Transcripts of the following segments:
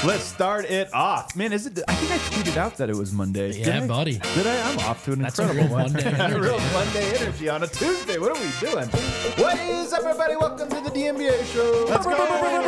Let's start it off. Man, is it? I think I tweeted out that it was Monday. Yeah, buddy. Did I? I'm off to an That's incredible a real Monday energy. real Monday energy on a Tuesday. What are we doing? What is up, everybody? Welcome to the DNVR show. Let's go.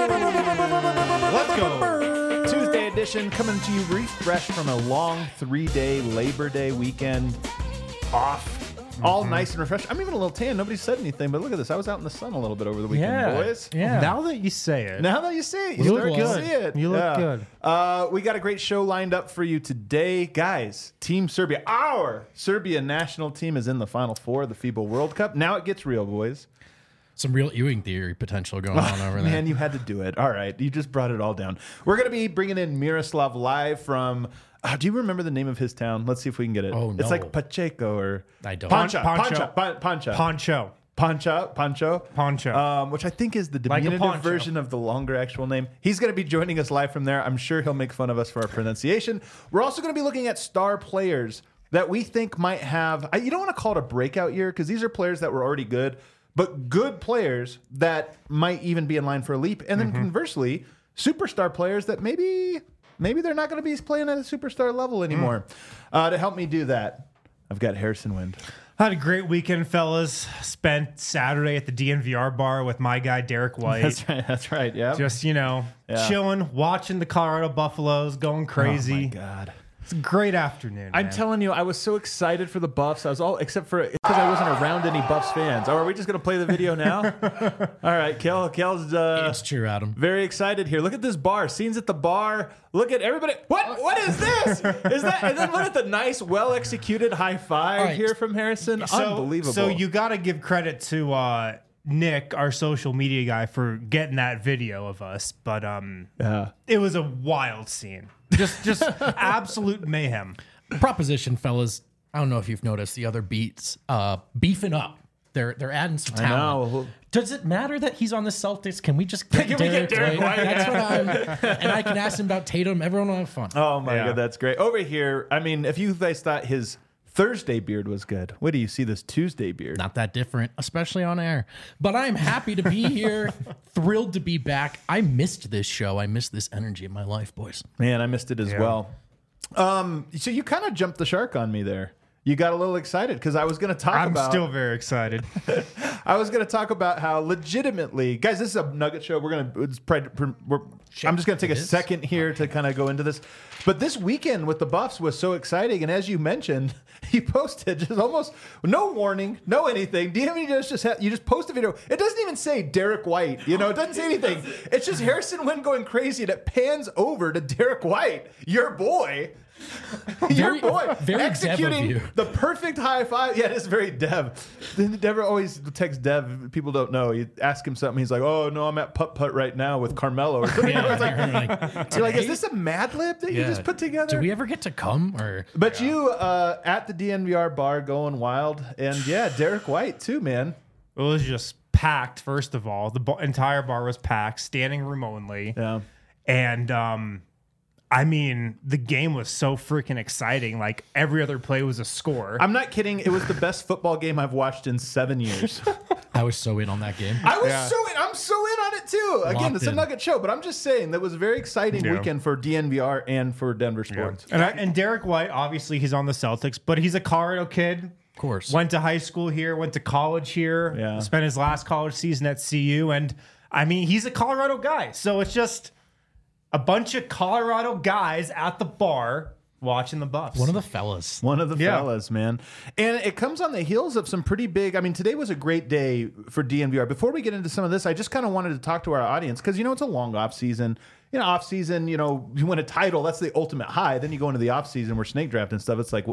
Let's go. Tuesday edition coming to you refreshed from a long 3-day Labor Day weekend off. All nice and refreshed. I'm even a little tan. Nobody said anything, but look at this. I was out in the sun a little bit over the weekend, boys. Yeah. Now that you say it, Now that you see it, you You start look to good. see it. You look good. We got a great show lined up for you today. Guys, Team Serbia, our Serbia national team is in the Final Four of the FIBA World Cup. Now it gets real, boys. Some real Ewing theory potential going on over there. Man, you had to do it. All right. You just brought it all down. We're going to be bringing in Miroslav live from... do you remember the name of his town? Let's see if we can get it. Oh, no. It's like Pacheco or... I don't. Pancha. Poncho. Which I think is the Like a diminutive poncho. version of the longer actual name. He's going to be joining us live from there. I'm sure he'll make fun of us for our pronunciation. We're also going to be looking at star players that we think might have... you don't want to call it a breakout year because these are players that were already good, but good players that might even be in line for a leap. And then conversely, superstar players that maybe they're not going to be playing at a superstar level anymore. To help me do that, I've got Harrison Wind. Had a great weekend, fellas. Spent Saturday at the DNVR bar with my guy Derek White. That's right. Yeah. Just, Yeah. chilling, watching the Colorado Buffaloes, going crazy. Oh my God. It's a great afternoon. I'm man. telling you, I was so excited for the Buffs. I was all except for because I wasn't around any Buffs fans. Oh, are we just gonna play the video now? All right, Kel's It's true, Adam. very excited here. Look at this bar. Scenes at the bar. Look at everybody. What is this? Is that? And then look at the nice, well executed high five All right. here from Harrison. So- Unbelievable. So you got to give credit to Nick, our social media guy, for getting that video of us. But yeah. it was a wild scene. Just absolute mayhem. Proposition, fellas. I don't know if you've noticed the other beats beefing up. They're adding some talent. know. Does it matter that he's on the Celtics? Can we just get Derek Derek White? That's what I'm. And I can ask him about Tatum. Everyone will have fun. Oh my Yeah. God, that's great. Over here, I mean, if you guys thought his Thursday beard was good, wait till you see this Tuesday beard. Not that different, especially on air. But I'm happy to be here. Thrilled to be back. I missed this show. I missed this energy in my life, boys. Man, I missed it as well. So you kind of jumped the shark on me there. You got a little excited because I was going to talk I'm about. still very excited. I was going to talk about how legitimately, guys. This is a Nugget show. I'm just going to take a second here to kind of go into this. But this weekend with the Buffs was so exciting, and as you mentioned, you posted just almost no warning, no anything. DMV you just post a video. It doesn't even say Derek White. You know, it doesn't say anything. It's just Harrison Wind going crazy, and it pans over to Derek White, your boy. Your boy very Dev of executing you. the perfect high five. Yeah, it is very Dev. Dev always texts Dev. People don't know. You ask him something, he's like, "Oh no, I'm at putt putt right now with Carmelo." Or something. It's like, you're like, "Is this a Mad Lib that you just put together?" Do we ever get to come? Or But you at the DNVR bar going wild, and yeah, Derek White too, man. It was just packed, first of all. The entire bar was packed, standing room only. Yeah. And I mean, the game was so freaking exciting. Like, every other play was a score. I'm not kidding. It was the best football game I've watched in 7 years. I was so in on that game. I was I'm so in on it too. Again, Locked it's a in. Nugget show, but I'm just saying that was a very exciting Yeah. weekend for DNVR and for Denver sports. And Derek White, obviously, he's on the Celtics, but he's a Colorado kid. Of course. Went to high school here, went to college here, Yeah. spent his last college season at CU. And I mean, he's a Colorado guy. So it's just a bunch of Colorado guys at the bar watching the Buffs. One of the fellas. One of the Yeah. fellas, man. And it comes on the heels of some pretty big... I mean, today was a great day for DNVR. Before we get into some of this, I just kind of wanted to talk to our audience because, it's a long off-season. Off-season, you win a title, that's the ultimate high. Then you go into the off-season where snake draft and stuff. It's like,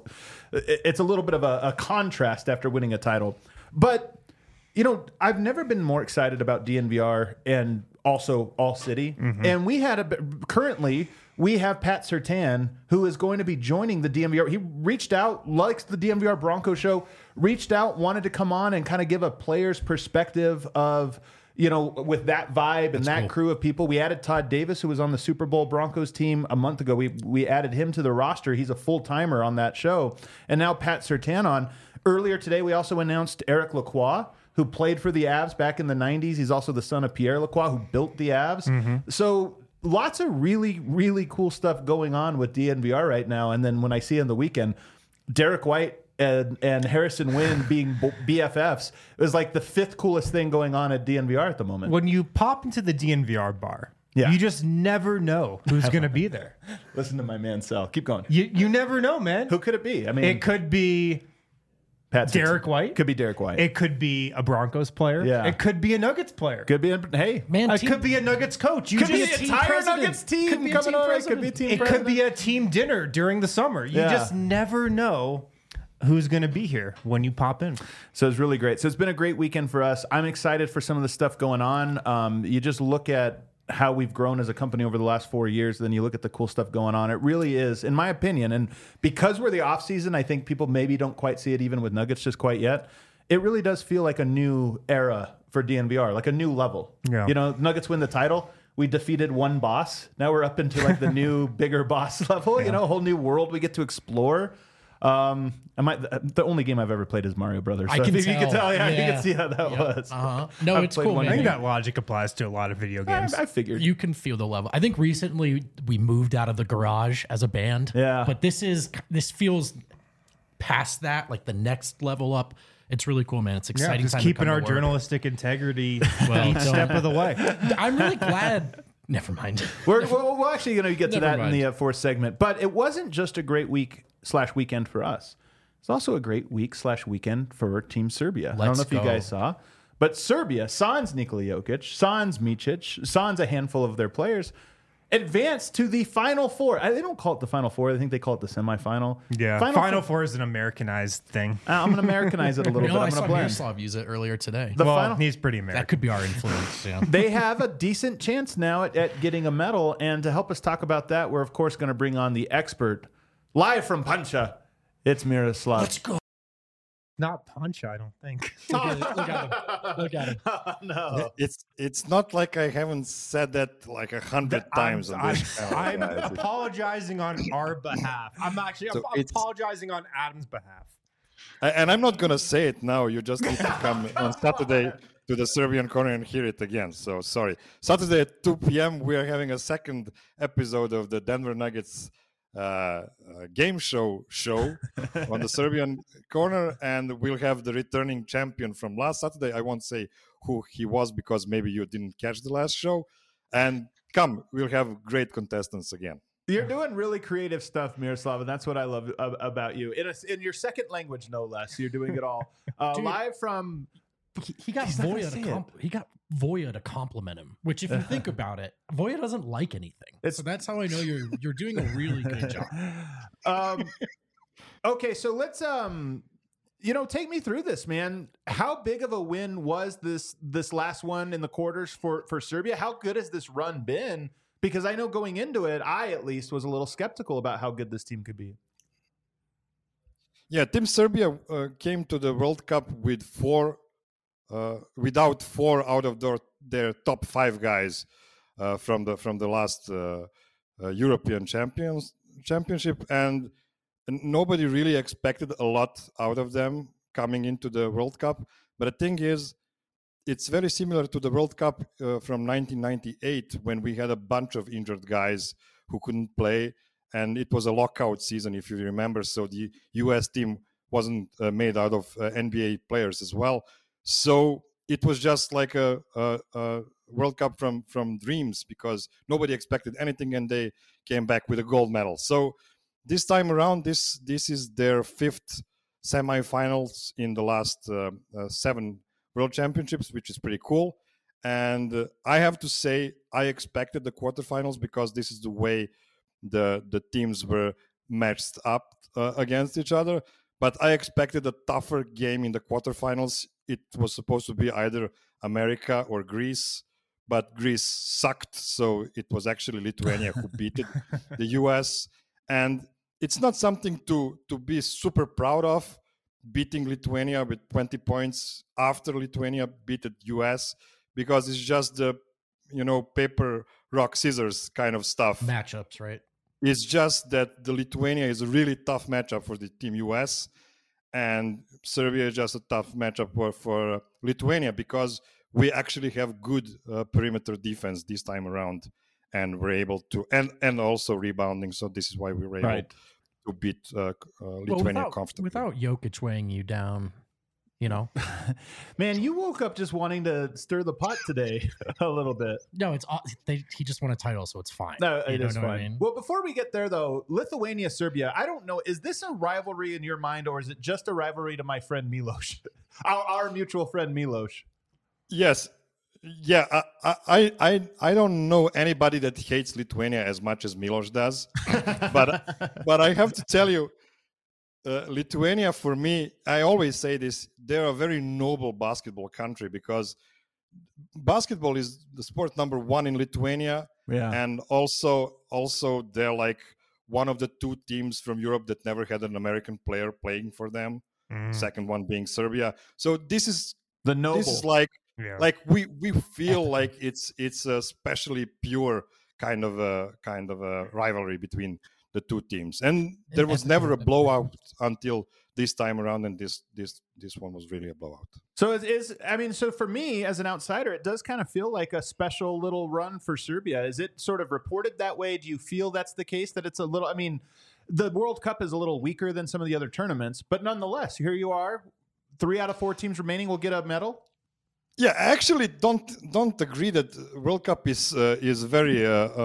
it's a little bit of a contrast after winning a title. But, I've never been more excited about DNVR and also All City. And we currently... We have Pat Surtain, who is going to be joining the DNVR. He reached out, likes the DNVR Bronco show, reached out, wanted to come on and kind of give a player's perspective of, with that vibe and that cool. crew of people. We added Todd Davis, who was on the Super Bowl Broncos team a month ago. We added him to the roster. He's a full-timer on that show. And now Pat Surtain on. Earlier today, we also announced Eric Lacroix, who played for the Avs back in the 90s. He's also the son of Pierre Lacroix, who built the Avs. So... lots of really, really cool stuff going on with DNVR right now. And then when I see on the weekend, Derek White and Harrison Wynn being BFFs, it was like the fifth coolest thing going on at DNVR at the moment. When you pop into the DNVR bar, Yeah. you just never know who's going to be there. Listen to my man, Sal. Keep going. You never know, man. Who could it be? I mean, It could be Pat Derek White. Could be Derek White. It could be a Broncos player. Yeah. It could be a Nuggets player. could be. Hey, Man, It could be a Nuggets coach. You could be just- the team entire president. Nuggets team Could be a coming team on. It could president. be team It president. could be a team dinner during the summer. You Yeah. just never know who's going to be here when you pop in. So it's really great. So it's been a great weekend for us. I'm excited for some of the stuff going on. You just look at how we've grown as a company over the last 4 years, then you look at the cool stuff going on. It really is, in my opinion, and because we're the off season, I think people maybe don't quite see it even with Nuggets just quite yet. It really does feel like a new era for DNVR, like a new level. Yeah. You know, Nuggets win the title. We defeated one boss. Now we're up into like the new, bigger boss level. You know, a whole new world we get to explore. The only game I've ever played is Mario Brothers. I So can if you can tell. tell, you Yeah. can see how that was. No, I've it's played cool, one I man. think that logic applies to a lot of video games. I figured. You can feel the level. I think recently we moved out of the garage as a band. Yeah. But this feels past that, like the next level up. It's really cool, man. It's Yeah, exciting. just time to keeping come our to work. journalistic integrity Well, each don't- step of the way. I'm really glad. Never mind. We're actually going to get to Never that in the mind. fourth segment. But it wasn't just a great week/weekend for us. It's also a great week/weekend for Team Serbia. I don't Let's know if you go. guys saw, but Serbia, sans Nikola Jokic, sans Micic, sans a handful of their players, advanced to the Final Four. They don't call it the Final Four. I think they call it the semifinal. Yeah, Final Four is an Americanized thing. I'm going to Americanize it a little You know, bit. I I'm saw going to blend. Miroslav use it earlier today. The Well, final- he's pretty That American. could be our influence. Yeah. They have a decent chance now at getting a medal. And to help us talk about that, we're, of course, going to bring on the expert live from Pancha. It's Miroslav. Let's go. Not Pancha, I don't think. Look at him. Look at him. No. It's not like I haven't said that like 100 times on this channel, I'm guys. apologizing on our behalf. I'm it's- apologizing on Adam's behalf. And I'm not gonna say it now. You just need to come on Saturday to the Serbian corner and hear it again. So sorry. Saturday at 2 p.m. we are having a second episode of the Denver Nuggets game show on the Serbian corner, and we'll have the returning champion from last Saturday. I won't say who he was because maybe you didn't catch the last show. And come, we'll have great contestants again. You're doing really creative stuff, Miroslav, and that's what I love about you. In your second language, no less. You're doing it all. Live from... He got He's not gonna Voya say he got Voya to compliment him. Which, if you think about it, Voya doesn't like anything. So that's how I know you're doing a really good job. Okay, so let's take me through this, man. How big of a win was this last one in the quarters for Serbia? How good has this run been? Because I know going into it, I at least was a little skeptical about how good this team could be. Yeah, Team Serbia came to the World Cup with without four out of their top five guys from the last European Championship, and nobody really expected a lot out of them coming into the World Cup. But the thing is, it's very similar to the World Cup from 1998 when we had a bunch of injured guys who couldn't play, and it was a lockout season, if you remember. So the US team wasn't made out of NBA players as well. So it was just like a World Cup from dreams, because nobody expected anything, and they came back with a gold medal. So this time around, this is their fifth semifinals in the last 7 World Championships, which is pretty cool. And I have to say, I expected the quarterfinals because this is the way the teams were matched up against each other. But I expected a tougher game in the quarterfinals. It was supposed to be either America or Greece, but Greece sucked. So it was actually Lithuania who beat the US. And it's not something to be super proud of, beating Lithuania with 20 points after Lithuania beat the US, because it's just the, paper, rock, scissors kind of stuff. Matchups, right? It's just that the Lithuania is a really tough matchup for the Team US, and Serbia is just a tough matchup for Lithuania, because we actually have good perimeter defense this time around. and were able to, and also rebounding. So this is why we were able to beat Lithuania comfortably. Without Jokic weighing you down, you know. Man, you woke up just wanting to stir the pot today a little bit. No, he just won a title, so it's fine. No, it is fine. What I mean? Well, before we get there, though, Lithuania, Serbia, I don't know. Is this a rivalry in your mind, or is it just a rivalry to my friend Milos, our mutual friend Milos? Yes. Yeah, I don't know anybody that hates Lithuania as much as Milos does, but I have to tell you, Lithuania, for me, I always say this, they're a very noble basketball country because basketball is the sport number one in Lithuania. Yeah. And also they're like one of the two teams from Europe that never had an American player playing for them. Second one being Serbia. So this is the noble. This is like we feel like it's a especially pure kind of a rivalry between the two teams, and there was never a blowout until this time around, and this one was really a blowout. So so for me as an outsider, it does kind of feel like a special little run for Serbia. Is it sort of reported that way? Do you feel that's the case, that it's a little, I mean, the World Cup is a little weaker than some of the other tournaments, but nonetheless, here you are, 3 out of 4 teams remaining will get a medal? Yeah, I actually don't agree that World Cup is very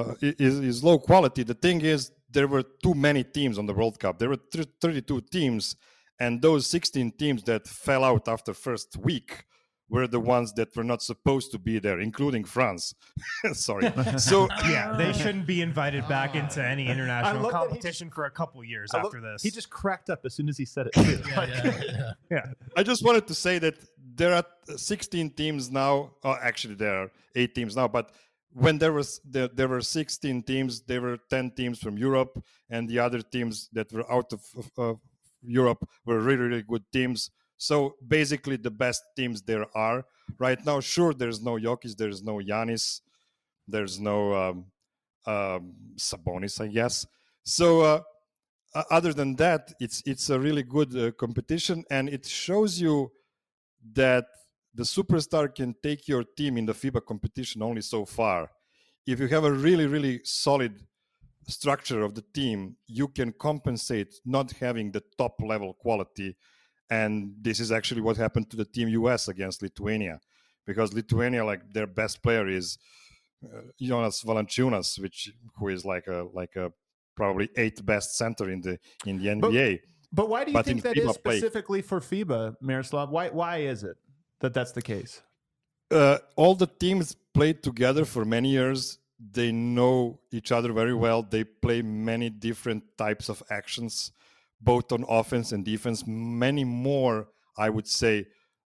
is low quality. The thing is, there were too many teams on the World Cup. There were 32 teams, and those 16 teams that fell out after first week were the ones that were not supposed to be there, including France. Sorry. So yeah, they shouldn't be invited back into any international competition for a couple years after this. He just cracked up as soon as he said it too. Yeah. I just wanted to say that there are 16 teams now. Oh, actually, there are 8 teams now. But when there were 16 teams, there were 10 teams from Europe, and the other teams that were out of Europe were really, really good teams. So basically, the best teams there are right now. Sure, there's no Jokic, there's no Giannis, there's no Sabonis, I guess. So other than that, it's a really good competition, and it shows you that the superstar can take your team in the FIBA competition only so far. If you have a really, really solid structure of the team, you can compensate not having the top level quality. And this is actually what happened to the Team US against Lithuania, because Lithuania, like, their best player is Jonas Valanciunas, who is like a probably 8th best center in the NBA. But why do you think that is specifically for FIBA, Miroslav? Why is it that that's the case? All the teams played together for many years. They know each other very well. They play many different types of actions, both on offense and defense. Many more, I would say,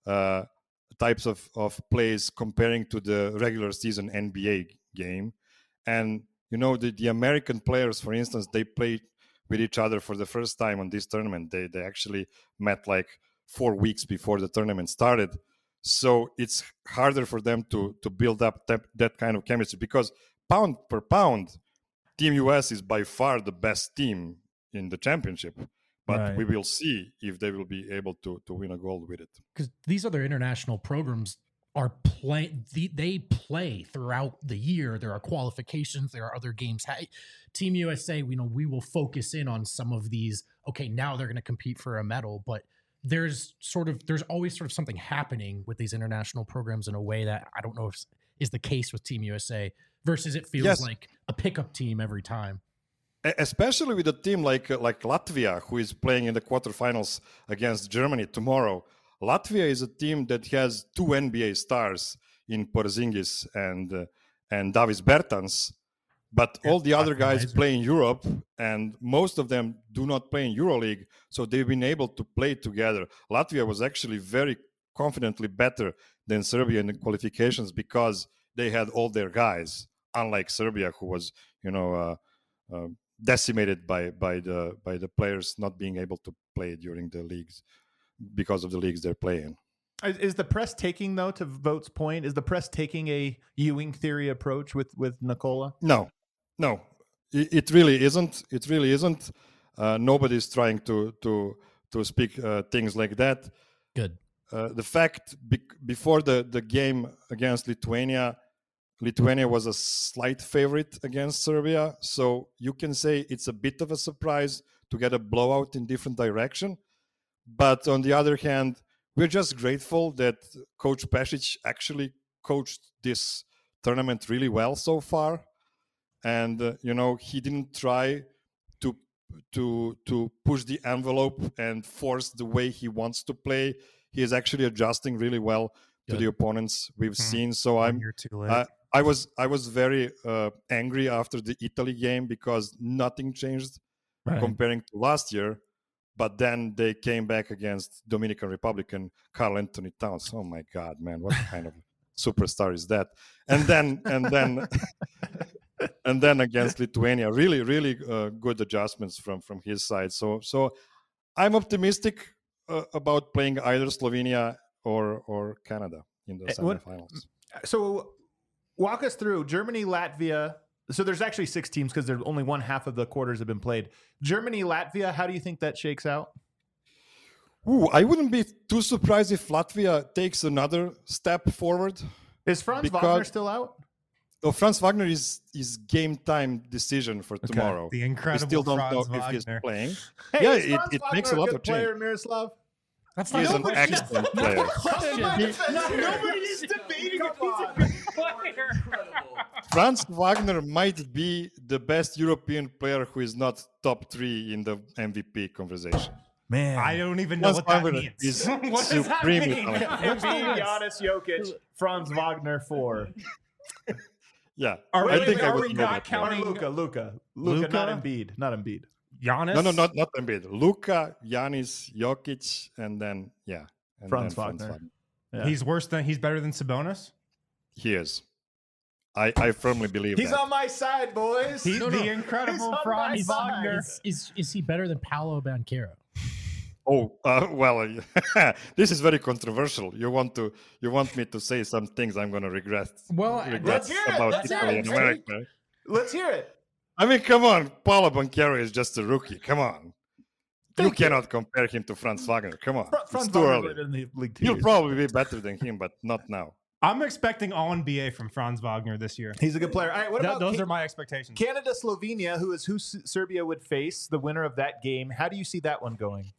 types of plays comparing to the regular season NBA game. And, you know, the American players, for instance, they played with each other for the first time on this tournament. They actually met like 4 weeks before the tournament started. So it's harder for them to build up that kind of chemistry, because pound per pound, Team US is by far the best team in the championship. But we will see if they will be able to win a gold with it. Because these other international programs are they play throughout the year. There are qualifications. There are other games. Team USA, we will focus in on some of these. Okay, now they're going to compete for a medal, but there's always sort of something happening with these international programs in a way that I don't know if is the case with Team USA, versus it feels like a pickup team every time. Especially with a team like Latvia, who is playing in the quarterfinals against Germany tomorrow. Latvia is a team that has 2 NBA stars in Porzingis and Davis Bertans, but all the other guys play in Europe, and most of them do not play in EuroLeague, so they've been able to play together. Latvia was actually very confidently better than Serbia in the qualifications because they had all their guys, unlike Serbia, who was, decimated by the players not being able to play during the leagues because of the leagues they're playing. Is the press taking, though, to Vogt's point, is the press taking a Ewing theory approach with Nikola? No, it really isn't. It really isn't. Nobody's trying to speak things like that. Good. The fact before the game against Lithuania, Lithuania was a slight favorite against Serbia. So you can say it's a bit of a surprise to get a blowout in different direction. But on the other hand, we're just grateful that Coach Pešić actually coached this tournament really well so far. And, he didn't try to push the envelope and force the way he wants to play. He is actually adjusting really well to the opponents we've seen. So You're too late. I was very angry after the Italy game because nothing changed comparing to last year. But then they came back against Dominican Republic and Karl Anthony Towns. Oh my God, man, what kind of superstar is that? And then and then against Lithuania, really, really good adjustments from his side. So I'm optimistic about playing either Slovenia or Canada in the semifinals. So walk us through Germany, Latvia. So there's actually 6 teams because there's only one half of the quarters have been played. Germany, Latvia, how do you think that shakes out? Ooh, I wouldn't be too surprised if Latvia takes another step forward. Is Franz Wagner still out? Oh, Franz Wagner is game time decision for tomorrow. The incredible We still don't Franz know if he's Wagner. playing. Hey, Yeah, is Franz it Wagner makes a lot good of change. player, Miroslav? That's He's not an excellent player. Nobody's debating if he's a good player. Franz Wagner might be the best European player who is not top 3 in the MVP conversation. Man, I don't even know Franz what that Wagner means. is What does that supremely mean? talented. Embiid, Giannis, Jokic, Franz Wagner 4. Yeah, Are I we- think I are would we know not that. counting- Luka, Luka? not Embiid, not Embiid. Giannis? No, not Embiid. Luka, Giannis, Jokic, and then and Franz then Wagner. Yeah. He's better than Sabonis? He is. I firmly believe He's that. on my side, boys. He's No, the no. He's incredible on Franz my Wagner. Is he better than Paolo Banchero? Oh, well, this is very controversial. You want me to say some things I'm going to regret let's hear it. about Let's hear Italy it. and America. Let's hear it. I mean, come on. Paolo Banchero is just a rookie. Come on. You cannot compare him to Franz Wagner. Come on. Franz It's too Wagner early. played in the league 2 He'll years. probably be better than him, but not now. I'm expecting all NBA from Franz Wagner this year. He's a good player. All right, what about Those are my expectations. Canada, Slovenia, who Serbia would face, the winner of that game? How do you see that one going?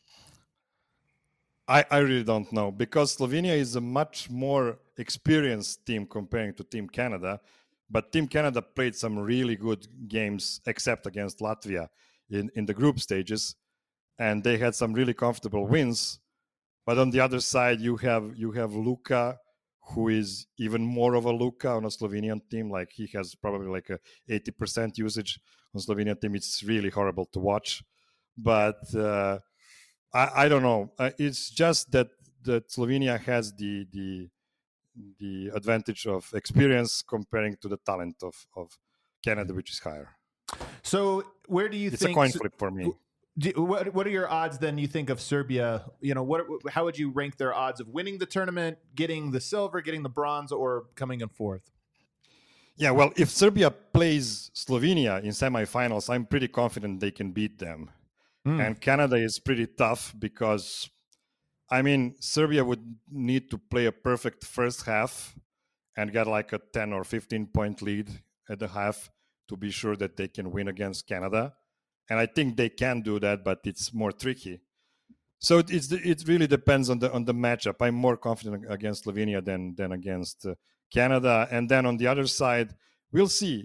I really don't know because Slovenia is a much more experienced team comparing to Team Canada. But Team Canada played some really good games, except against Latvia in the group stages. And they had some really comfortable wins. But on the other side, you have Luka, who is even more of a Luka on a Slovenian team. Like he has probably like a 80% usage on Slovenian team. It's really horrible to watch. But I don't know. It's just that Slovenia has the advantage of experience comparing to the talent of Canada, which is higher. So where do you It's think? a coin flip for me. What are your odds then? You think of Serbia? How would you rank their odds of winning the tournament, getting the silver, getting the bronze, or coming in 4th? Yeah, well, if Serbia plays Slovenia in semifinals, I'm pretty confident they can beat them. And Canada is pretty tough because, I mean, Serbia would need to play a perfect first half and get like a 10 or 15 point lead at the half to be sure that they can win against Canada. And I think they can do that, but it's more tricky. So it really depends on the matchup. I'm more confident against Slovenia than against Canada. And then on the other side, we'll see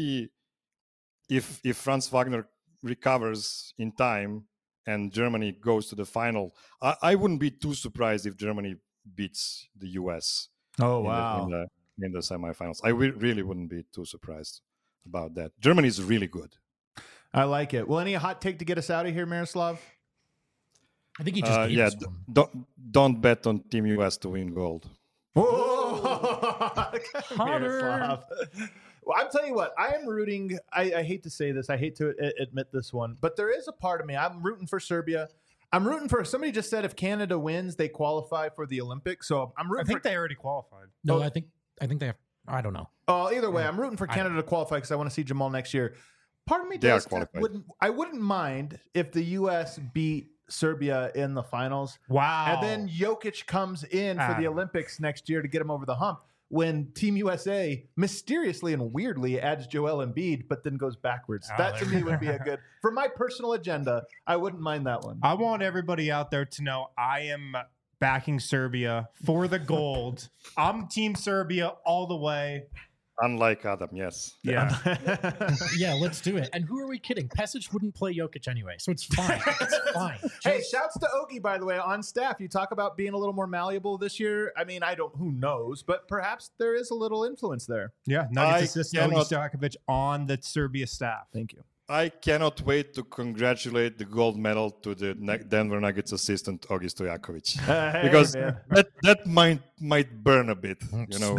if Franz Wagner recovers in time and Germany goes to the final. I wouldn't be too surprised if Germany beats the US. Oh in the semifinals. I really wouldn't be too surprised about that. Germany is really good. I like it. Well, any hot take to get us out of here, Miroslav? I think he just gave us one. Don't bet on Team US to win gold. Miroslav. Well, I'm telling you what, I am rooting. I hate to say this. I hate to admit this one, but there is a part of me. I'm rooting for Serbia. I'm rooting for. Somebody just said if Canada wins, they qualify for the Olympics. So I'm rooting. I think they already qualified. No, I think they have. I don't know. Either way, I'm rooting for Canada to qualify because I want to see Jamal next year. Part of me They are does. qualified. I wouldn't mind if the U.S. beat Serbia in the finals. Wow. And then Jokic comes in for the Olympics next year to get him over the hump. when Team USA mysteriously and weirdly adds Joel Embiid, but then goes backwards. That to me would be a good, for my personal agenda, I wouldn't mind that one. I want everybody out there to know I am backing Serbia for the gold. I'm Team Serbia all the way. Unlike Adam, yes. Yeah. Yeah, let's do it. And who are we kidding? Pesic wouldn't play Jokic anyway, so it's fine. It's fine. Hey, shouts to Ogie, by the way, on staff. You talk about being a little more malleable this year. I mean, who knows, but perhaps there is a little influence there. Yeah. Nuggets assistant Ogi Stojakovic on the Serbia staff. Thank you. I cannot wait to congratulate the gold medal to the Denver Nuggets assistant Ogi Stojakovic, because that might burn a bit, you know.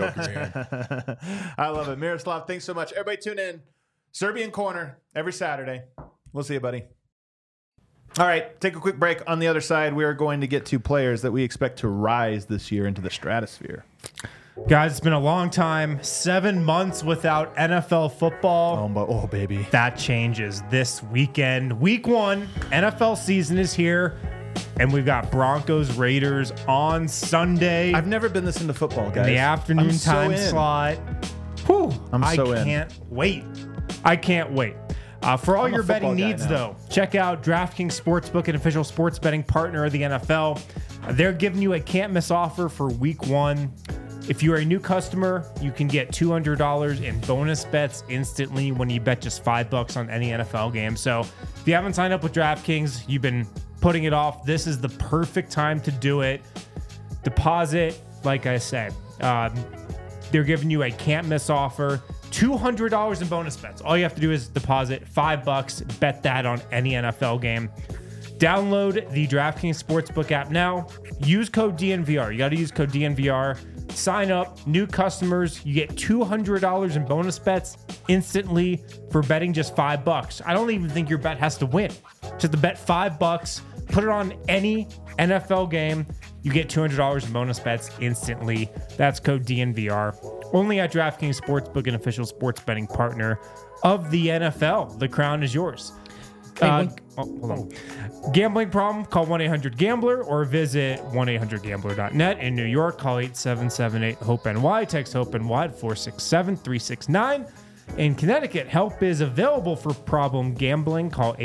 I love it. Miroslav, thanks so much. Everybody tune in. Serbian Corner every Saturday. We'll see you, buddy. All right, take a quick break. On the other side, we are going to get to players that we expect to rise this year into the stratosphere. Guys, it's been a long time. 7 months without NFL football. Oh, baby. That changes this weekend. Week 1, NFL season is here, and we've got Broncos Raiders on Sunday. I've never been this into football, guys. In the afternoon time slot. Whew, I can't wait. I can't wait. For all your betting needs, though, check out DraftKings Sportsbook, an official sports betting partner of the NFL. They're giving you a can't-miss offer for Week 1. If you're a new customer, you can get $200 in bonus bets instantly when you bet just $5 on any NFL game. So if you haven't signed up with DraftKings, you've been putting it off, this is the perfect time to do it. Deposit, like I said, they're giving you a can't-miss offer. $200 in bonus bets. All you have to do is deposit $5, bet that on any NFL game. Download the DraftKings Sportsbook app now. Use code DNVR. You got to use code DNVR. Sign up. New customers, you get $200 in bonus bets instantly for betting just $5. I don't even think your bet has to win. Just to bet $5, put it on any NFL game, you get $200 in bonus bets instantly. That's code DNVR. Only at DraftKings Sportsbook, an official sports betting partner of the NFL. The crown is yours. Hold on. Gambling problem? Call 1-800-GAMBLER or visit 1-800-GAMBLER.net. In New York, call 877-8-HOPE-NY. Text HOPE-NY at 467-369. In Connecticut, help is available for problem gambling. Call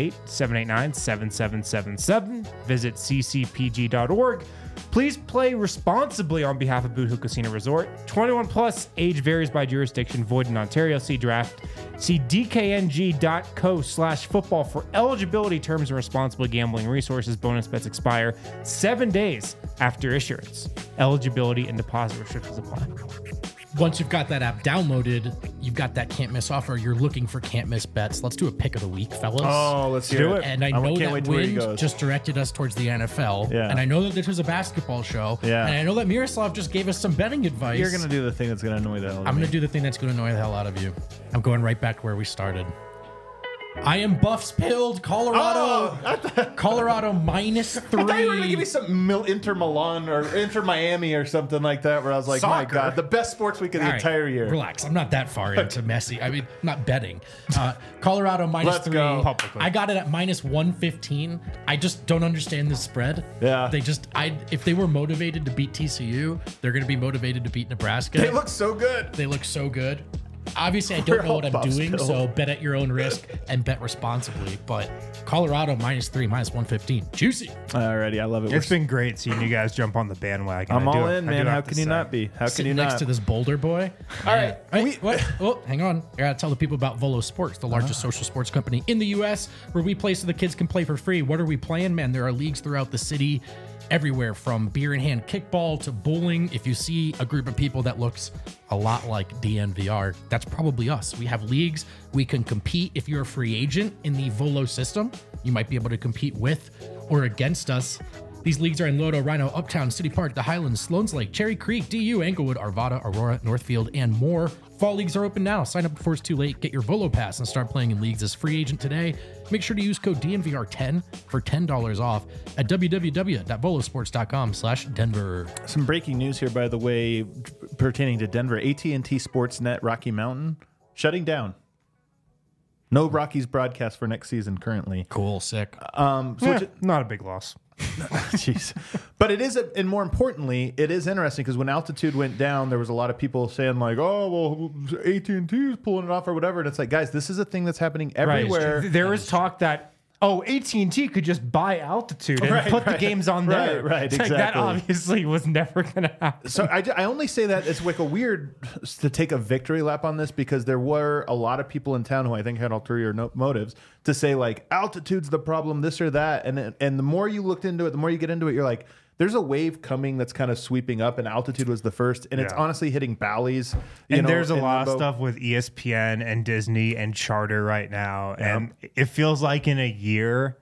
888-789-7777. Visit ccpg.org. Please play responsibly on behalf of Boot Hill Casino Resort. 21 plus, age varies by jurisdiction, void in Ontario. See draft. See dkng.co/football for eligibility, terms, and responsible gambling resources. Bonus bets expire 7 days after issuance. Eligibility and deposit restrictions apply. Once you've got that app downloaded, you've got that can't miss offer. You're looking for can't miss bets. Let's do a pick of the week, fellas. Oh, let's do it. And I know that Wind just directed us towards the NFL. Yeah. And I know that this was a basketball show. Yeah. And I know that Miroslav just gave us some betting advice. You're going to do the thing that's going to annoy the hell out of me. I'm going to do the thing that's going to annoy the hell out of you. I'm going right back to where we started. I am Buffs pilled. Colorado. Colorado -3. I thought you were going to give me some Inter Milan or Inter Miami or something like that, where I was like, my God, the best sports week of the entire year. Relax. I'm not that far into Messi. I mean, not betting. Colorado -3. Go. I got it at -115. I just don't understand this spread. Yeah. If they were motivated to beat TCU, they're going to be motivated to beat Nebraska. They look so good. They look so good. Obviously, I don't know what I'm doing, so bet at your own risk and bet responsibly. But Colorado -3, -115. Juicy. Alrighty, I love it. It's been great seeing you guys jump on the bandwagon. I'm all in, man. How can you not be? How can you not? Next to this Boulder boy. All right. What? Hang on. I gotta tell the people about Volo Sports, the largest social sports company in the U.S., where we play so the kids can play for free. What are we playing, man? There are leagues throughout the city, everywhere from beer in hand kickball to bowling. If you see a group of people that looks a lot like DNVR, that's probably us. We have leagues. We can compete. If you're a free agent in the Volo system, you might be able to compete with or against us. These leagues are in Lodo, Rhino, Uptown, City Park, the Highlands, Sloan's Lake, Cherry Creek, DU, Englewood, Arvada, Aurora, Northfield, and more. Fall leagues are open now. Sign up before it's too late. Get your Volo Pass and start playing in leagues as free agent today. Make sure to use code DNVR10 for $10 off at www.volosports.com/Denver. Some breaking news here, by the way, pertaining to Denver. AT&T Sportsnet Rocky Mountain shutting down. No Rockies broadcast for next season currently. Cool, sick. Not a big loss. Jeez. But it is, and more importantly, it is interesting because when altitude went down, there was a lot of people saying like, "Oh, well, AT&T is pulling it off or whatever." And it's like, guys, this is a thing that's happening everywhere. Right. There was talk that AT&T could just buy altitude and put the games on there. Right, it's exactly. Like, that obviously was never going to happen. So I only say that it's like a weird to take a victory lap on this because there were a lot of people in town who I think had ulterior motives to say like altitude's the problem, this or that, and the more you looked into it, the more you get into it, you're like, there's a wave coming that's kind of sweeping up, and altitude was the first, and it's honestly hitting Bally's. And there's a lot of stuff with ESPN and Disney and Charter right now, and it feels like in a year,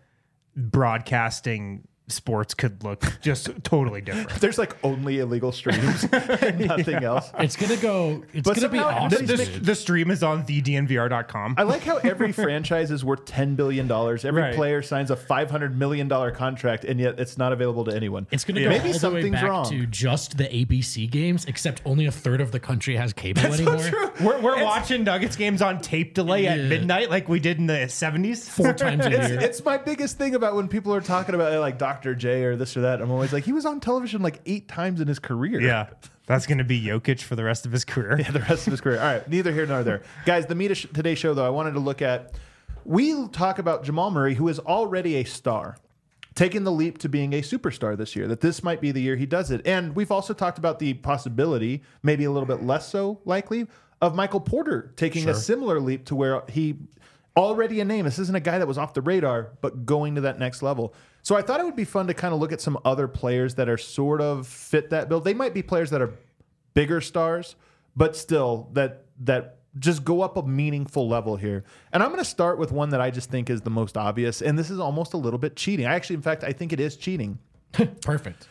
broadcasting sports could look just totally different. There's like only illegal streams and nothing else. It's gonna go. It's gonna be awesome. The stream is on thednvr.com. I like how every franchise is worth $10 billion. Every player signs a $500 million contract, and yet it's not available to anyone. It's going to go Maybe all the way something's back wrong. to just the ABC games, except only a third of the country has cable anymore. So true. We're watching Nuggets games on tape delay at midnight like we did in the 70s. 4 times a year. It's my biggest thing about when people are talking about like Dr. J or this or that. I'm always like, he was on television like 8 times in his career. Yeah. That's going to be Jokic for the rest of his career. Yeah, the rest of his career. All right, neither here nor there. Guys, the Media Today show, though, I wanted to look at, we talk about Jamal Murray, who is already a star, taking the leap to being a superstar this year, that this might be the year he does it. And we've also talked about the possibility, maybe a little bit less so likely, of Michael Porter taking a similar leap to where he already a name. This isn't a guy that was off the radar, but going to that next level. So I thought it would be fun to kind of look at some other players that are sort of fit that bill. They might be players that are bigger stars, but still that just go up a meaningful level here. And I'm going to start with one that I just think is the most obvious, and this is almost a little bit cheating. In fact, I think it is cheating. Perfect.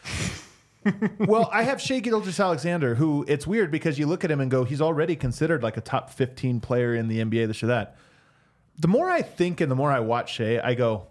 Well, I have Shai Gilgeous-Alexander, who it's weird because you look at him and go, he's already considered like a top 15 player in the NBA, this or that. The more I think and the more I watch Shai, I go,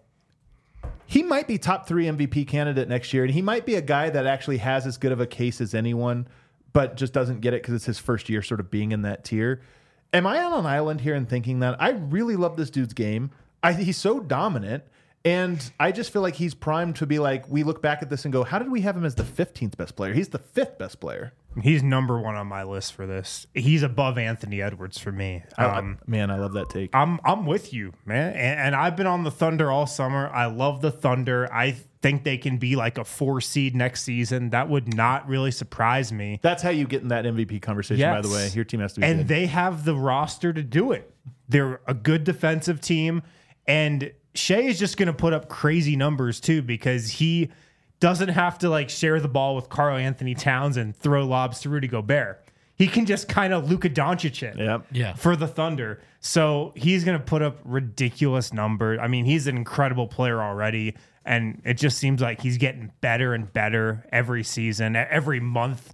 he might be top 3 MVP candidate next year, and he might be a guy that actually has as good of a case as anyone, but just doesn't get it because it's his first year sort of being in that tier. Am I on an island here and thinking that? I really love this dude's game. He's so dominant, and I just feel like he's primed to be like, we look back at this and go, how did we have him as the 15th best player? He's the 5th best player. He's number 1 on my list for this. He's above Anthony Edwards for me. Man, I love that take. I'm with you, man. And I've been on the Thunder all summer. I love the Thunder. I think they can be like a 4 seed next season. That would not really surprise me. That's how you get in that MVP conversation, by the way. Your team has to be good. And they have the roster to do it. They're a good defensive team. And Shai is just going to put up crazy numbers too, because he doesn't have to like share the ball with Karl Anthony Towns and throw lobs to Rudy Gobert. He can just kind of Luka Doncic it for the Thunder. So he's going to put up ridiculous numbers. I mean, he's an incredible player already, and it just seems like he's getting better and better every season, every month.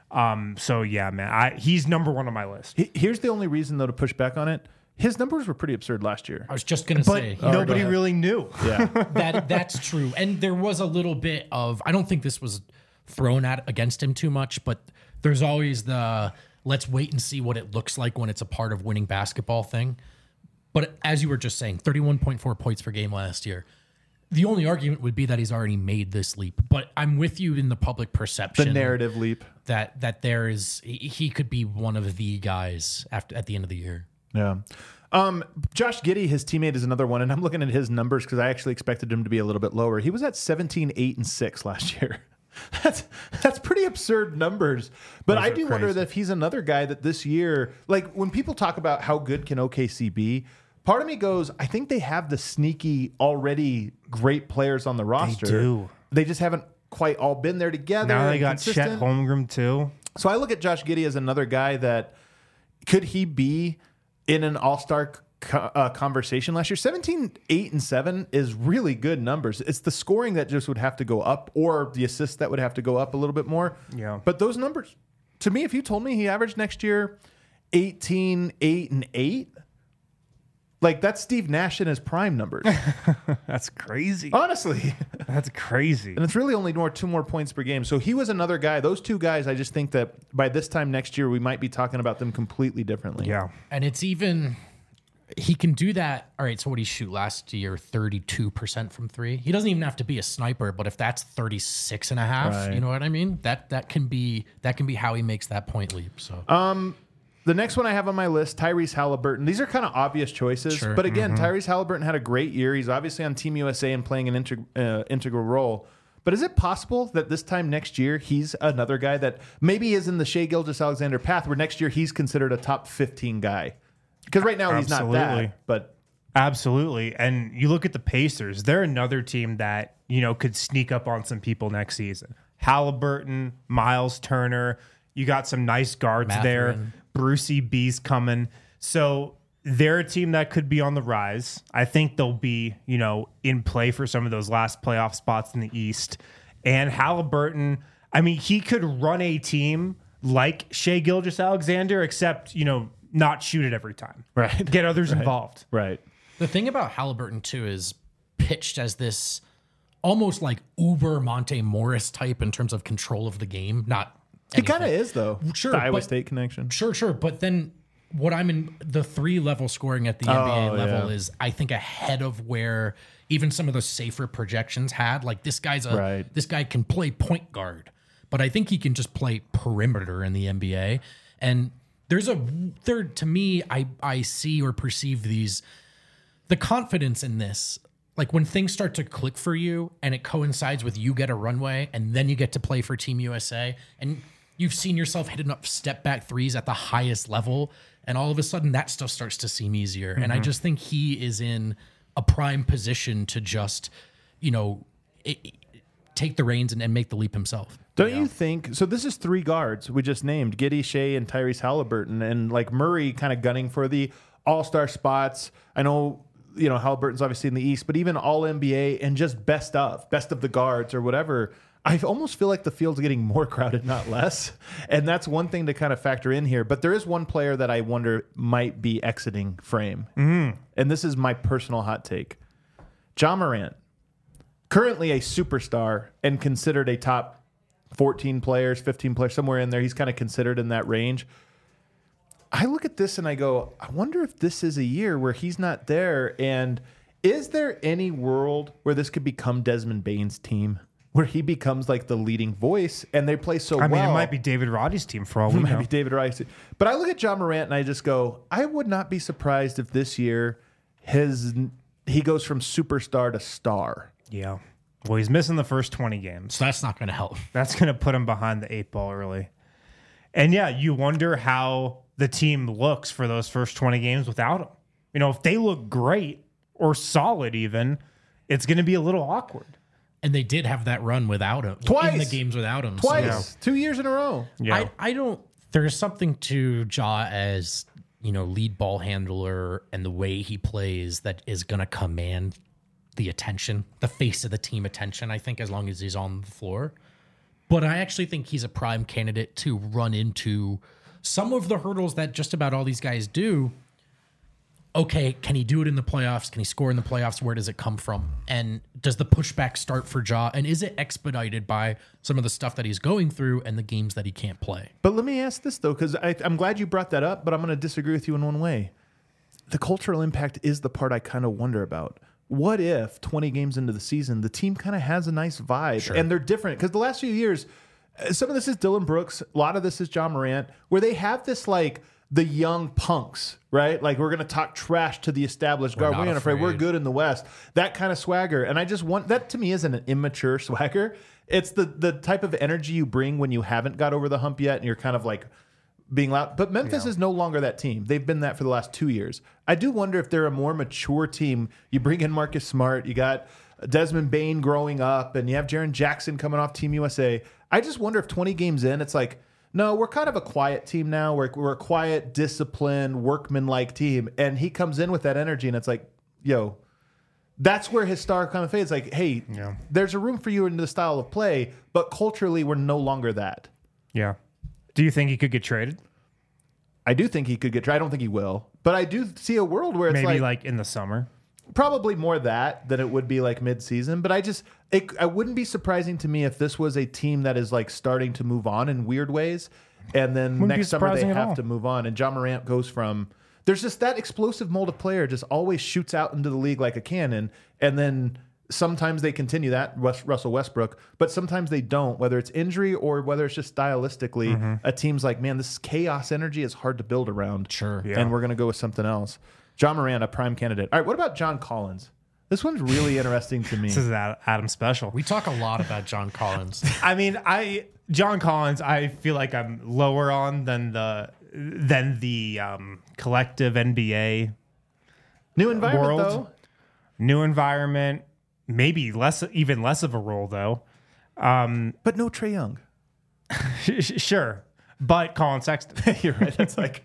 So yeah, man, he's number 1 on my list. Here's the only reason though to push back on it. His numbers were pretty absurd last year. I was just going to say. Nobody really knew. Yeah, that's true. And there was a little bit of, I don't think this was thrown against him too much, but there's always the let's wait and see what it looks like when it's a part of winning basketball thing. But as you were just saying, 31.4 points per game last year. The only argument would be that he's already made this leap. But I'm with you in the public perception. The narrative leap. That there is, he could be one of the guys at the end of the year. Yeah. Josh Giddey, his teammate, is another one, and I'm looking at his numbers because I actually expected him to be a little bit lower. He was at 17, 8, and 6 last year. That's pretty absurd numbers. But I do wonder that if he's another guy that this year, like when people talk about how good can OKC be, part of me goes, I think they have the sneaky, already great players on the roster. They do. They just haven't quite all been there together. Now they got Chet Holmgren too. So I look at Josh Giddey as another guy that could he be in an all-star conversation last year. 17, 8, and 7 is really good numbers. It's the scoring that just would have to go up, or the assists that would have to go up a little bit more. Yeah. But those numbers, to me, if you told me he averaged next year 18, 8, and 8, like that's Steve Nash in his prime numbers. That's crazy. Honestly. That's crazy. And it's really only 2 more points per game. So he was another guy. Those 2 guys, I just think that by this time next year, we might be talking about them completely differently. Yeah. And it's even, he can do that. All right, so what did he shoot last year? 32% from three. He doesn't even have to be a sniper, but if that's 36.5, you know what I mean? That can be how he makes that point leap. So the next one I have on my list, Tyrese Halliburton. These are kind of obvious choices, but again, Tyrese Halliburton had a great year. He's obviously on Team USA and playing an integral role. But is it possible that this time next year he's another guy that maybe is in the Shai Gilgeous-Alexander path, where next year he's considered a top 15 guy? Because right now he's not that. But absolutely. And you look at the Pacers; they're another team that could sneak up on some people next season. Halliburton, Miles Turner. You got some nice guards there. Brucey B's coming. So they're a team that could be on the rise. I think they'll be, in play for some of those last playoff spots in the East. And Halliburton, I mean, he could run a team like Shai Gilgeous-Alexander, except, not shoot it every time. Right. Get others involved. Right. The thing about Halliburton, too, is pitched as this almost like uber Monte Morris type in terms of control of the game. Not He kind of is, though. Sure. The Iowa State connection. Sure. But then what I'm in the 3-level scoring at the NBA level is, I think, ahead of where even some of the safer projections had. Like, this guy can play point guard, but I think he can just play perimeter in the NBA. And to me, I see or perceive the confidence in this. Like, when things start to click for you and it coincides with you get a runway and then you get to play for Team USA and you've seen yourself hitting up step back threes at the highest level, and all of a sudden that stuff starts to seem easier. And I just think he is in a prime position to just, take the reins and make the leap himself. Don't you think? So this is 3 guards we just named: Giddey, Shai, and Tyrese Halliburton, and like Murray kind of gunning for the all-star spots. I know, Halliburton's obviously in the East, but even all NBA and just best of the guards or whatever. I almost feel like the field's getting more crowded, not less. And that's one thing to kind of factor in here. But there is one player that I wonder might be exiting frame. And this is my personal hot take. Ja Morant, currently a superstar and considered a top 14 players, 15 players, somewhere in there. He's kind of considered in that range. I look at this and I go, I wonder if this is a year where he's not there. And is there any world where this could become Desmond Bane's team, where he becomes like the leading voice and they play so well? I mean, it might be David Roddy's team for all we know. It might be David Roddy's team. But I look at Ja Morant and I just go, I would not be surprised if this year he goes from superstar to star. Yeah. Well, he's missing the first 20 games. So that's not going to help. That's going to put him behind the 8 ball early. And yeah, you wonder how the team looks for those first 20 games without him. If they look great or solid even, it's going to be a little awkward. And they did have that run without him. Twice. In the games without him. Twice. So. 2 years in a row. Yeah. I don't... There's something to Ja as, lead ball handler and the way he plays that is going to command the attention, the face of the team attention, I think, as long as he's on the floor. But I actually think he's a prime candidate to run into some of the hurdles that just about all these guys do. Okay, can he do it in the playoffs? Can he score in the playoffs? Where does it come from? And does the pushback start for Ja? And is it expedited by some of the stuff that he's going through and the games that he can't play? But let me ask this, though, because I'm glad you brought that up, but I'm going to disagree with you in one way. The cultural impact is the part I kind of wonder about. What if 20 games into the season, the team kind of has a nice vibe and they're different? Because the last few years, some of this is Dillon Brooks, a lot of this is Ja Morant, where they have this like the young punks, right? Like, we're going to talk trash to the established guard. We're not afraid. We're good in the West. that kind of swagger. And I just want that, to me, isn't an immature swagger. It's the type of energy you bring when you haven't got over the hump yet and you're kind of like being loud. But Memphis is no longer that team. They've been that for the last 2 years. I do wonder if they're a more mature team. You bring in Marcus Smart, you got Desmond Bane growing up, and you have Jaren Jackson coming off Team USA. I just wonder if 20 games in, it's like, no, we're kind of a quiet team now. We're a quiet, disciplined, workman-like team. And he comes in with that energy, and it's like, yo, that's where his star kind of fades. Like, hey, there's a room for you in the style of play, but culturally, we're no longer that. Yeah. Do you think he could get traded? I do think he could get traded. I don't think he will. But I do see a world where it's maybe like in the summer. Probably more that than it would be like mid-season. But I wouldn't be surprising to me if this was a team that is like starting to move on in weird ways. And then next summer they have to move on. And Ja Morant goes from there's just that explosive mold of player just always shoots out into the league like a cannon. And then sometimes they continue that, Russell Westbrook, but sometimes they don't, whether it's injury or whether it's just stylistically, a team's like, man, this chaos energy is hard to build around. Sure. Yeah. And we're going to go with something else. John Moran, a prime candidate. All right, what about John Collins? This one's really interesting to me. This is Adam special. We talk a lot about John Collins. I mean, John Collins, I feel like I'm lower on than the collective NBA New environment, world. though. New environment, maybe even less of a role though. But no Trae Young. Sure, but Colin Sexton. You're right. That's like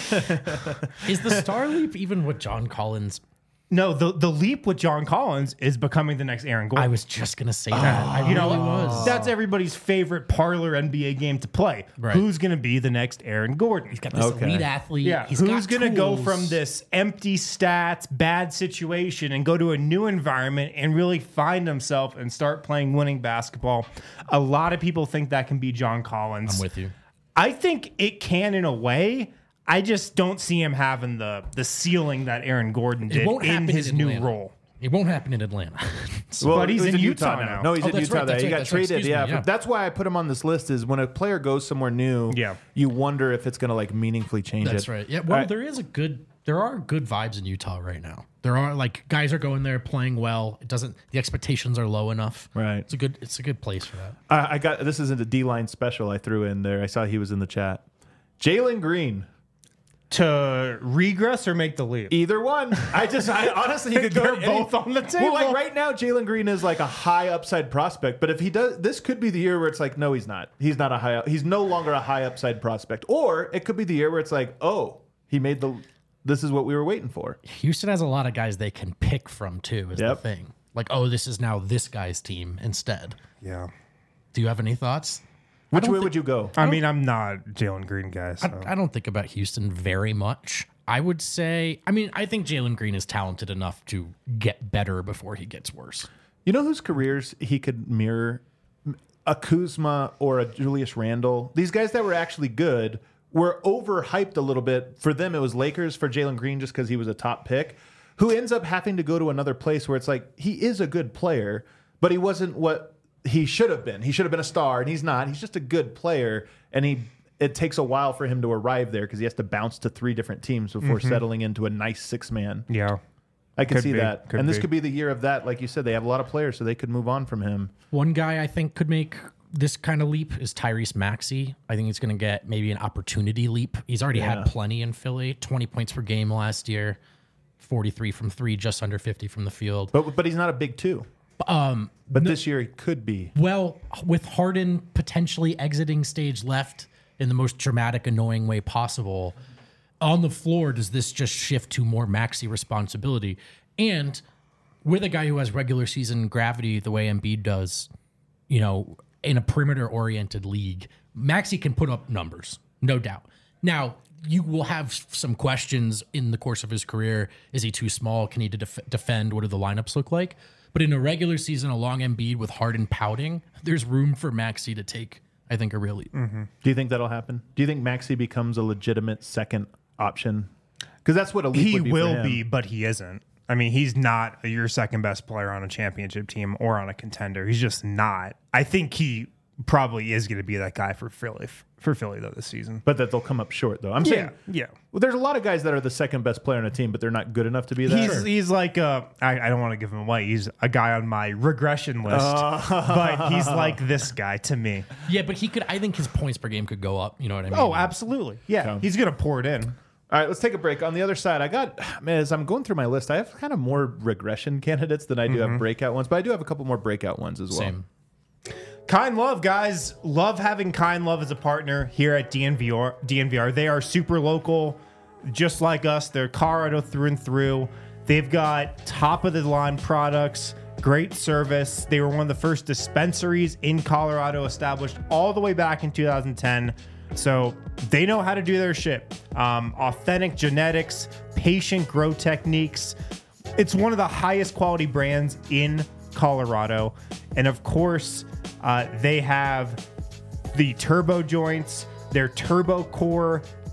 Is the star leap even with John Collins? No, the leap with John Collins is becoming the next Aaron Gordon. I was just going to say that. I really was. That's everybody's favorite parlor NBA game to play. Right. Who's going to be the next Aaron Gordon? He's got this elite athlete. Yeah. Who's going to go from this empty stats, bad situation and go to a new environment and really find himself and start playing winning basketball? A lot of people think that can be John Collins. I'm with you. I think it can in a way. I just don't see him having the ceiling that Aaron Gordon did in his new role. It won't happen in Atlanta. But he's in Utah now. No, he's in that's Utah. right, that's He right, got that's right. traded. Excuse me, yeah. That's why I put him on this list. Is when a player goes somewhere new, you wonder if it's going to like meaningfully change That's it. right. Yeah. Well, there are good vibes in Utah right now. There are like guys are going there playing well. The expectations are low enough. Right. It's a good place for that. This isn't a D-line special I threw in there. I saw he was in the chat. Jalen Green. To regress or make the leap? Either one. I honestly, you could go both on the table. Well, like right now, Jalen Green is like a high upside prospect. But if he does, this could be the year where it's like, no, he's not. He's not a high. He's no longer a high upside prospect. Or it could be the year where it's like, oh, he made the. This is what we were waiting for. Houston has a lot of guys they can pick from too. Is the thing. Like, oh, this is now this guy's team instead. Yeah. Do you have any thoughts? Which way would you go? I mean, I'm not Jalen Green guy. So. I don't think about Houston very much. I would say, I think Jalen Green is talented enough to get better before he gets worse. You know whose careers he could mirror? A Kuzma or a Julius Randle. These guys that were actually good were overhyped a little bit. For them, it was Lakers. For Jalen Green, just because he was a top pick, who ends up having to go to another place where it's like, he is a good player, but he wasn't what he should have been. He should have been a star, and he's not. He's just a good player, and it takes a while for him to arrive there because he has to bounce to 3 different teams before settling into a nice 6-man. Yeah. I can see that. And this could be the year of that. Like you said, they have a lot of players, so they could move on from him. One guy I think could make this kind of leap is Tyrese Maxey. I think he's going to get maybe an opportunity leap. He's already had plenty in Philly. 20 points per game last year, 43 from 3, just under 50 from the field. But he's not a big 2. But this year he could be. Well, with Harden potentially exiting stage left in the most dramatic, annoying way possible, on the floor, does this just shift to more Maxey responsibility? And with a guy who has regular season gravity the way Embiid does, in a perimeter-oriented league, Maxey can put up numbers, no doubt. Now, you will have some questions in the course of his career. Is he too small? Can he defend? What do the lineups look like? But in a regular season, along Embiid with Harden pouting, there's room for Maxey to take, I think, a real leap. Mm-hmm. Do you think that'll happen? Do you think Maxey becomes a legitimate second option? Because that's what a leap would be for him. He will be, but he isn't. I mean, he's not your second best player on a championship team or on a contender. He's just not. I think he probably is going to be that guy for Philly though this season. But that they'll come up short though. I'm saying, yeah. Well, there's a lot of guys that are the second best player on a team, but they're not good enough to be that. He's like I don't want to give him away. He's a guy on my regression list, but he's like this guy to me. Yeah, but I think his points per game could go up. You know what I mean? Oh, absolutely. Yeah, he's going to pour it in. All right, let's take a break. On the other side, as I'm going through my list, I have kind of more regression candidates than I do have breakout ones, but I do have a couple more breakout ones as well. Same. Kind Love, guys. Love having Kind Love as a partner here at DNVR. They are super local, just like us. They're Colorado through and through. They've got top-of-the-line products, great service. They were one of the first dispensaries in Colorado established all the way back in 2010. So they know how to do their shit. Authentic genetics, patient grow techniques. It's one of the highest quality brands in Colorado. And of course, they have the turbo joints, their turbo core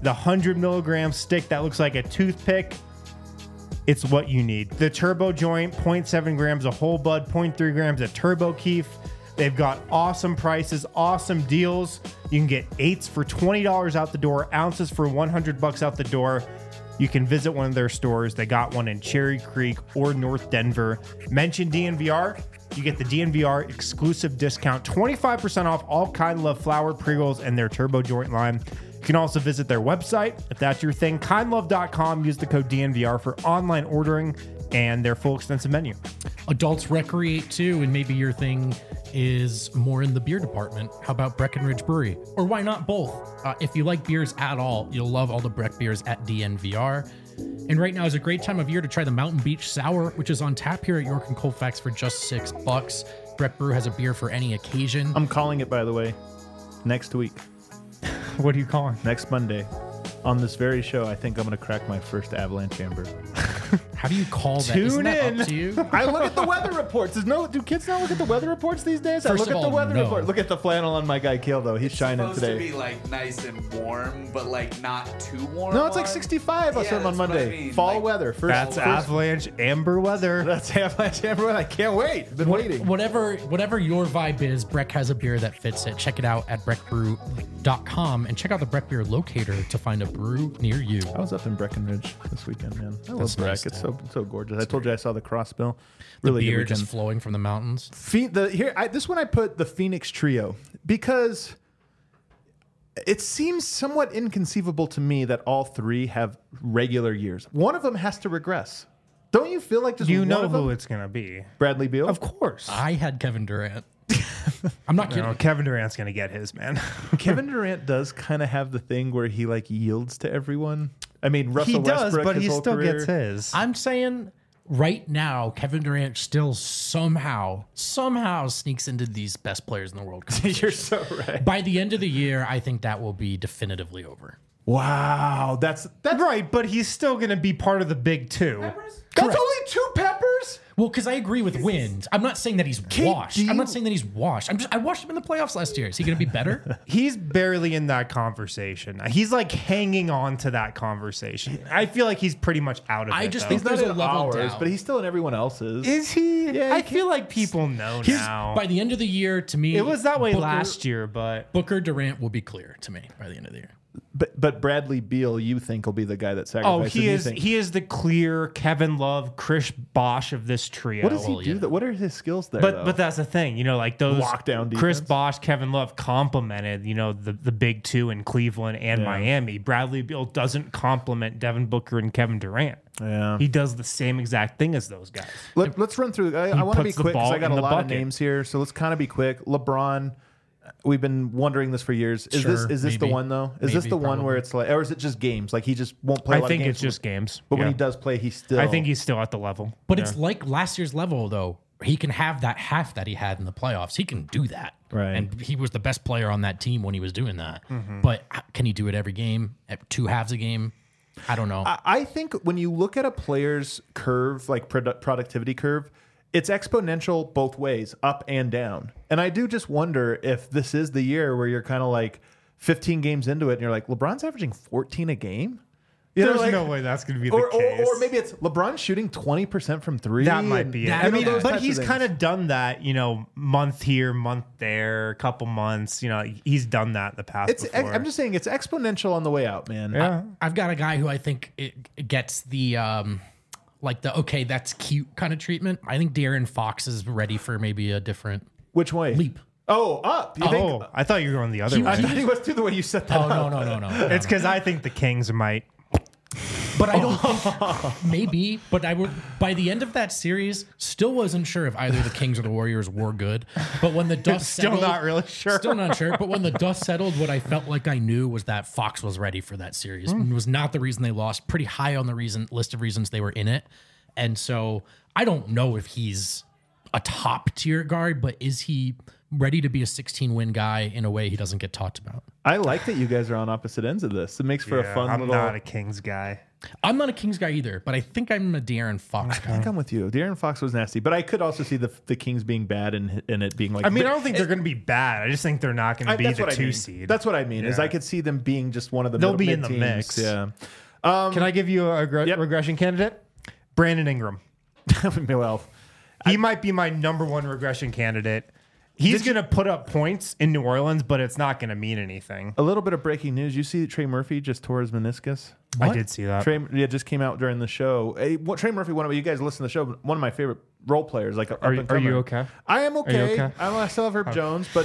the 100 milligram stick that looks like a toothpick. It's what you need. The Turbo Joint, 0.7 grams of whole bud, 0.3 grams of Turbo Keef. They've got awesome prices, awesome deals. You can get 8s for $20 out the door, ounces for $100 out the door. You can visit one of their stores. They got one in Cherry Creek or North Denver. Mention DNVR. You get the DNVR exclusive discount, 25% off all Kind Love flour, pre-rolls, and their Turbo Joint line. You can also visit their website if that's your thing, kindlove.com. Use the code DNVR for online ordering and their full extensive menu. Adults recreate too, and maybe your thing is more in the beer department. How about Breckenridge Brewery? Or why not both? If you like beers at all, you'll love all the Breck beers at DNVR. And right now is a great time of year to try the Mountain Beach Sour, which is on tap here at York and Colfax for just $6. Breck Brew has a beer for any occasion. I'm calling it, by the way, next week. What are you calling? Next Monday. On this very show, I think I'm going to crack my first Avalanche Amber. How do you call that? Isn't that up to you? I look at the weather reports. Do kids not look at the weather reports these days? First I look of at the all, weather no. report. Look at the flannel on my guy Kale, though. He's shining It's today. supposed to be like nice and warm, but like not too warm. No, it's like 65 or something on that's what Monday. I mean. Fall Like, weather. That's Avalanche Amber weather. That's Avalanche Amber. I can't wait. Been waiting. Whatever your vibe is, Breck has a beer that fits it. Check it out at breckbrew.com and check out the Breck Beer Locator to find a brew near you. I was up in Breckenridge this weekend, man. I love Breck. nice, It's so gorgeous. I told you I saw the crossbill. Really Beer good just weekend. flowing from the mountains. This one I put the Phoenix Trio because it seems somewhat inconceivable to me that all three have regular years. One of them has to regress. Don't you feel like just You one know of them? who it's going to be. Bradley Beal? Of course. I had Kevin Durant. I'm not kidding. No, Kevin Durant's going to get his, man. Kevin Durant does kind of have the thing where he like yields to everyone. I mean, Russell He does, Westbrook, but his he whole still career. gets his. I'm saying right now, Kevin Durant still somehow sneaks into these best players in the world. You're so right. By the end of the year, I think that will be definitively over. Wow, that's right, but he's still going to be part of the big two. That's only 2 peppers. Well, because I agree with Wind. I'm not saying that he's washed. I'm not saying that he's washed. I watched him in the playoffs last year. Is he going to be better? He's barely in that conversation. He's like hanging on to that conversation. I feel like he's pretty much out of it. I just though. think there's a in level ours, down. but he's still in everyone else's. Is he? Yeah, I feel like people know now. By the end of the year, to me, It was that way Booker- last year, but Booker Durant will be clear to me by the end of the year. But Bradley Beal, you think will be the guy that oh, sacrifices? he You is think- he is the clear Kevin Love, Chris Bosh of this trio. What does he well, do? yeah. What are his skills there? But that's the thing, like those Lockdown Chris defense. Bosh, Kevin Love complemented, the big two in Cleveland and Yeah. Miami. Bradley Beal doesn't complement Devin Booker and Kevin Durant. Yeah. He does the same exact thing as those guys. Let's run through. I want to be puts the quick because ball I got in a the lot of bucket. names here. So let's kind of be quick. LeBron. We've been wondering this for years. Is Sure, this the maybe. one though? Is this Maybe, the one where probably. it's like, or is it just games? Like he just won't play. A I lot think of games it's just games. But when Yeah. he does play, he's still. I think he's still at the level. But it's like last year's level, though. He can have that half that he had in the playoffs. He can do that. Right. And he was the best player on that team when he was doing that. But can he do it every game? At 2 halves a game? I don't know. I think when you look at a player's curve, like productivity curve, it's exponential both ways, up and down. And I do just wonder if this is the year where you're kind of like 15 games into it and you're like, LeBron's averaging 14 a game? You know, There's like- no way that's going to be the or, case. or maybe it's LeBron shooting 20% from 3. That might be it. that- I mean, those but types of he's things. kind of done that, month here, month there, a couple months. He's done that in the past. It's. before. I'm just saying it's exponential on the way out, man. Yeah. I've got a guy who I think it gets the okay, that's cute kind of treatment. I think De'Aaron Fox is ready for maybe a different Which way? leap. Oh, up. You think? I thought you were going the other I way. thought he was through the way you set that Oh up. no. It's because I think the Kings might. But I don't think maybe. But I would by the end of that series, still wasn't sure if either the Kings or the Warriors were good. But when the dust Still settled, not really sure. Still not sure. But when the dust settled, what I felt like I knew was that Fox was ready for that series. It was not the reason they lost. Pretty high on the list of reasons they were in it. And so I don't know if he's a top tier guard, but is he ready to be a 16-win guy in a way he doesn't get talked about? I like that you guys are on opposite ends of this. It makes for a fun I'm little. not a Kings guy. I'm not a Kings guy either, but I think I'm a De'Aaron Fox guy. I think I'm with you. De'Aaron Fox was nasty, but I could also see the Kings being bad and it being like. I mean, I don't think they're going to be bad. I just think they're not going to be the 2 seed. That's what I mean. Is I could see them being just one of the. They'll be in the teams. mix. Yeah. Can I give you a regression candidate? Brandon Ingram. Well, he might be my number 1 regression candidate. He's going to put up points in New Orleans, but it's not going to mean anything. A little bit of breaking news. You see that Trey Murphy just tore his meniscus? What? I did see that. Trey, just came out during the show. Trey Murphy, you guys listen to the show, one of my favorite role players. Like, are you okay? I am okay. Okay? I still have Herb Jones, but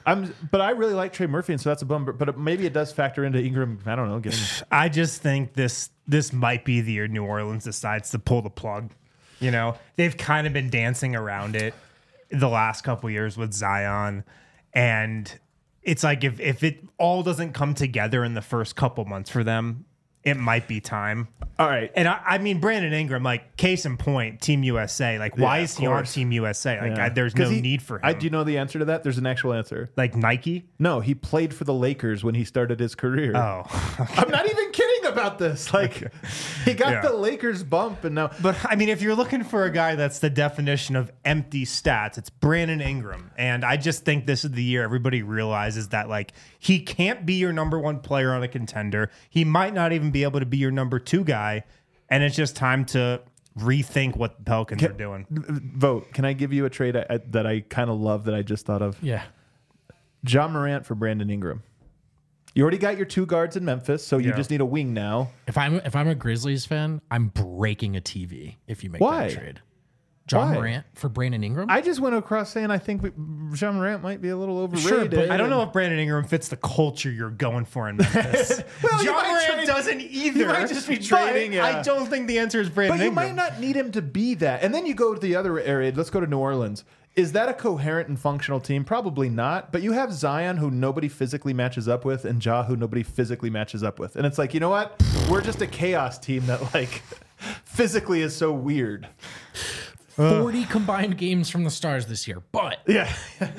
I really like Trey Murphy, and so that's a bummer. But maybe it does factor into Ingram. I don't know. I just think this might be the year New Orleans decides to pull the plug. You know, they've kind of been dancing around it the last couple of years with Zion, and it's like if it all doesn't come together in the first couple months for them, it might be time. All right. And I mean, Brandon Ingram, like, case in point, Team USA. Like, why is he on Team USA? Like, there's no need for him. Do you know the answer to that? There's an actual answer. Like Nike? No, he played for the Lakers when he started his career. Oh. Okay. I'm not even kidding about this. Like, he got the Lakers bump, and now. But, I mean, if you're looking for a guy that's the definition of empty stats, it's Brandon Ingram. And I just think this is the year everybody realizes that, like, he can't be your number 1 player on a contender. He might not even be able to be your number 2 guy. And it's just time to rethink what the Pelicans are doing. Vote. Can I give you a trade that I kind of love that I just thought of? Yeah. Ja Morant for Brandon Ingram. You already got your 2 guards in Memphis, so you just need a wing now. If I'm a Grizzlies fan, I'm breaking a TV if you make Why? that trade. Ja Morant for Brandon Ingram? I just went across saying I think Ja Morant might be a little overrated. Sure, but I don't know if Brandon Ingram fits the culture you're going for in Memphis. Ja Morant doesn't either. You might just be trading. I don't think the answer is Brandon Ingram. But you might not need him to be that. And then you go to the other area. Let's go to New Orleans. Is that a coherent and functional team? Probably not. But you have Zion, who nobody physically matches up with, and Ja, who nobody physically matches up with. And it's like, you know what? We're just a chaos team that, like, physically is so weird. 40 combined games from the Stars this year, but yeah,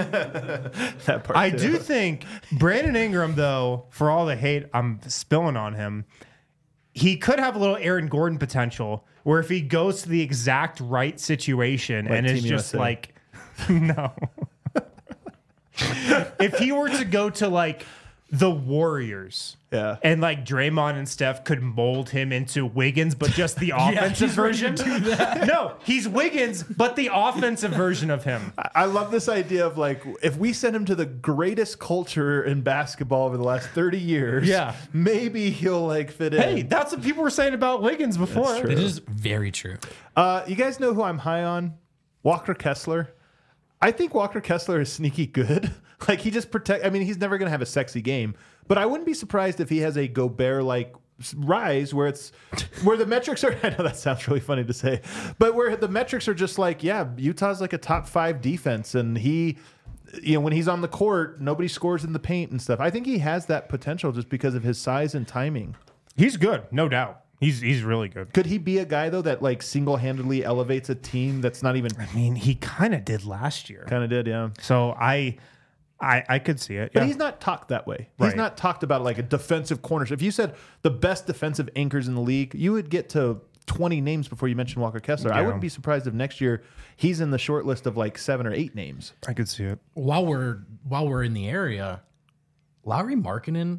that part. I do think Brandon Ingram, though, for all the hate I'm spilling on him, he could have a little Aaron Gordon potential, where if he goes to the exact right situation and is just like, no, if he were to go to like the Warriors. Yeah. And like Draymond and Steph could mold him into Wiggins, but just the offensive version. No, he's Wiggins, but the offensive version of him. I love this idea of like, if we send him to the greatest culture in basketball over the last 30 years, maybe he'll like fit in. Hey, that's what people were saying about Wiggins before. It is very true. You guys know who I'm high on? Walker Kessler. I think Walker Kessler is sneaky good. Like, he just I mean, he's never going to have a sexy game, but I wouldn't be surprised if he has a Gobert-like rise where the metrics are, I know that sounds really funny to say, but where the metrics are just like, yeah, Utah's like a top 5 defense, and he, you know, when he's on the court, nobody scores in the paint and stuff. I think he has that potential just because of his size and timing. He's good, no doubt. He's really good. Could he be a guy, though, that like single-handedly elevates a team that's not even... I mean, he kind of did last year. Kind of did, yeah. So I could see it. But he's not talked that way. He's not talked about like a defensive corner. If you said the best defensive anchors in the league, you would get to 20 names before you mentioned Walker Kessler. Yeah. I wouldn't be surprised if next year he's in the short list of like 7 or 8 names. I could see it. While we're in the area, Lauri Markkanen.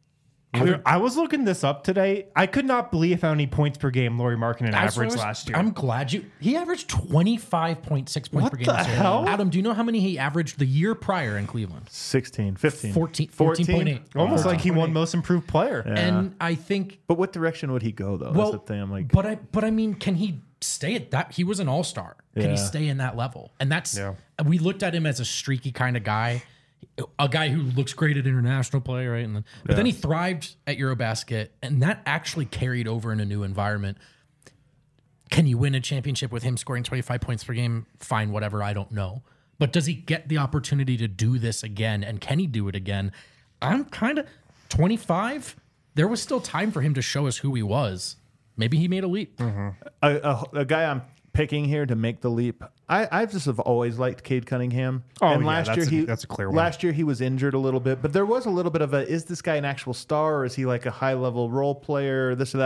I was looking this up today. I could not believe how many points per game Lauri Markkanen averaged last year. I'm glad he averaged 25.6 points per game. What the hell? Adam, do you know how many he averaged the year prior in Cleveland? 16, 15. 14.8. Almost like he won most improved player. Yeah. And I think... But what direction would he go, though? Well, that's the thing. I'm like... But I mean, can he stay at that? He was an all-star. Can he stay in that level? And that's... Yeah. We looked at him as a streaky kind of guy. A guy who looks great at international play, right? But then he thrived at Eurobasket, and that actually carried over in a new environment. Can you win a championship with him scoring 25 points per game? Fine, whatever, I don't know. But does he get the opportunity to do this again, and can he do it again? I'm kind of 25. There was still time for him to show us who he was. Maybe he made a leap. Mm-hmm. A guy I'm picking here to make the leap. I've just have always liked Cade Cunningham. Oh, and last year that's a clear one. Last year he was injured a little bit, but there was a little bit of is this guy an actual star, or is he like a high level role player, or this or that?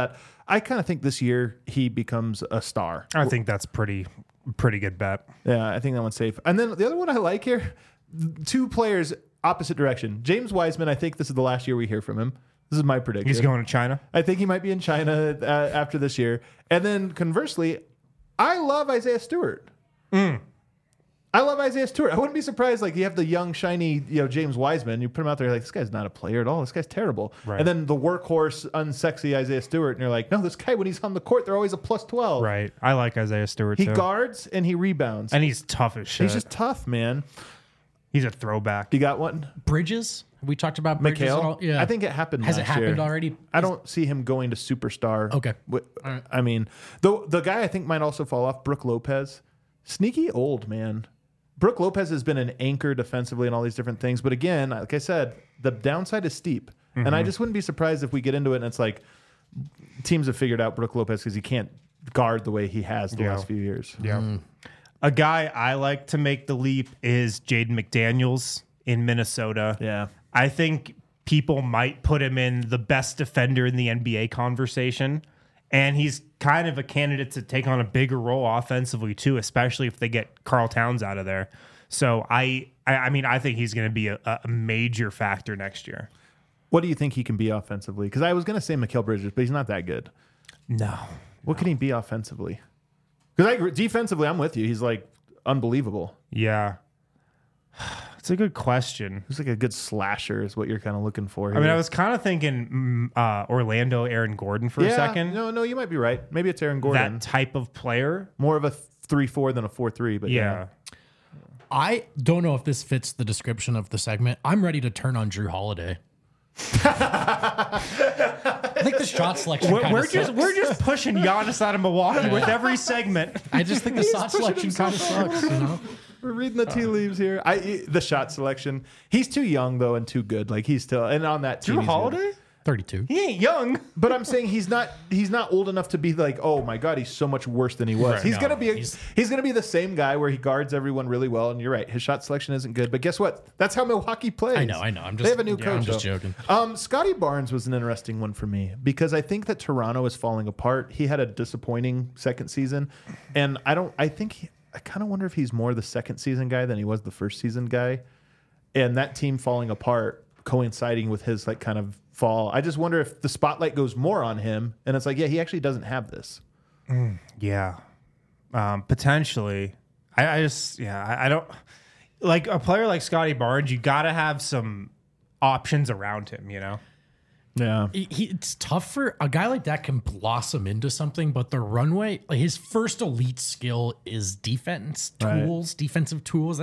I kind of think this year he becomes a star. I think that's pretty good bet. Yeah, I think that one's safe. And then the other one I like here, 2 players opposite direction. James Wiseman, I think this is the last year we hear from him. This is my prediction. He's going to China? I think he might be in China after this year. And then conversely, I love Isaiah Stewart. I love Isaiah Stewart. I wouldn't be surprised, like, you have the young, shiny, James Wiseman. You put him out there, you're like, this guy's not a player at all. This guy's terrible. Right. And then the workhorse, unsexy Isaiah Stewart, and you're like, no, this guy, when he's on the court, they're always a plus 12. Right. I like Isaiah Stewart, He too. guards and he rebounds. And he's tough as shit. He's just tough, man. He's a throwback. You got one? Bridges? We talked about Bridges. Mikhail? Yeah. I think it happened Has it last happened year. already? I don't see him going to superstar. Okay. Right. I mean, the guy I think might also fall off, Brook Lopez. Sneaky old, man. Brook Lopez has been an anchor defensively and all these different things. But again, like I said, the downside is steep. Mm-hmm. And I just wouldn't be surprised if we get into it and it's like teams have figured out Brook Lopez because he can't guard the way he has the last few years. Yeah. A guy I like to make the leap is Jaden McDaniels in Minnesota. Yeah. I think people might put him in the best defender in the NBA conversation. And he's kind of a candidate to take on a bigger role offensively, too, especially if they get Karl Towns out of there. So, I mean, I think he's going to be a major factor next year. What do you think he can be offensively? Because I was going to say Mikal Bridges, but he's not that good. No. What can he be offensively? Because defensively, I'm with you. He's like unbelievable. Yeah. It's a good question. He's like a good slasher is what you're kind of looking for here. I mean, I was kind of thinking Orlando Aaron Gordon for a second. No, you might be right. Maybe it's Aaron Gordon. That type of player. More of a 3-4 than a 4-3, but Yeah. I don't know if this fits the description of the segment. I'm ready to turn on Drew Holiday. I think the shot selection We're just pushing Giannis out of Milwaukee with every segment. I just think the shot selection kind of sucks, We're reading the tea leaves here. The shot selection. He's too young though and too good. Like he's still and on that team. Drew Holiday? 32. He ain't young. But I'm saying he's not old enough to be like, oh my God, he's so much worse than he was. Right. He's No, gonna be the same guy where he guards everyone really well. And you're right, his shot selection isn't good. But guess what? That's how Milwaukee plays. I know. They have a new coach. I'm just joking. Scotty Barnes was an interesting one for me because I think that Toronto is falling apart. He had a disappointing second season, and I kind of wonder if he's more the second season guy than he was the first season guy, and that team falling apart coinciding with his like kind of fall. I just wonder if the spotlight goes more on him, and it's like, yeah, he actually doesn't have this. Yeah, potentially. I don't like a player like Scotty Barnes. You got to have some options around him, you know. Yeah, It's tough for a guy like that can blossom into something, but the runway, like his first elite skill is defensive tools.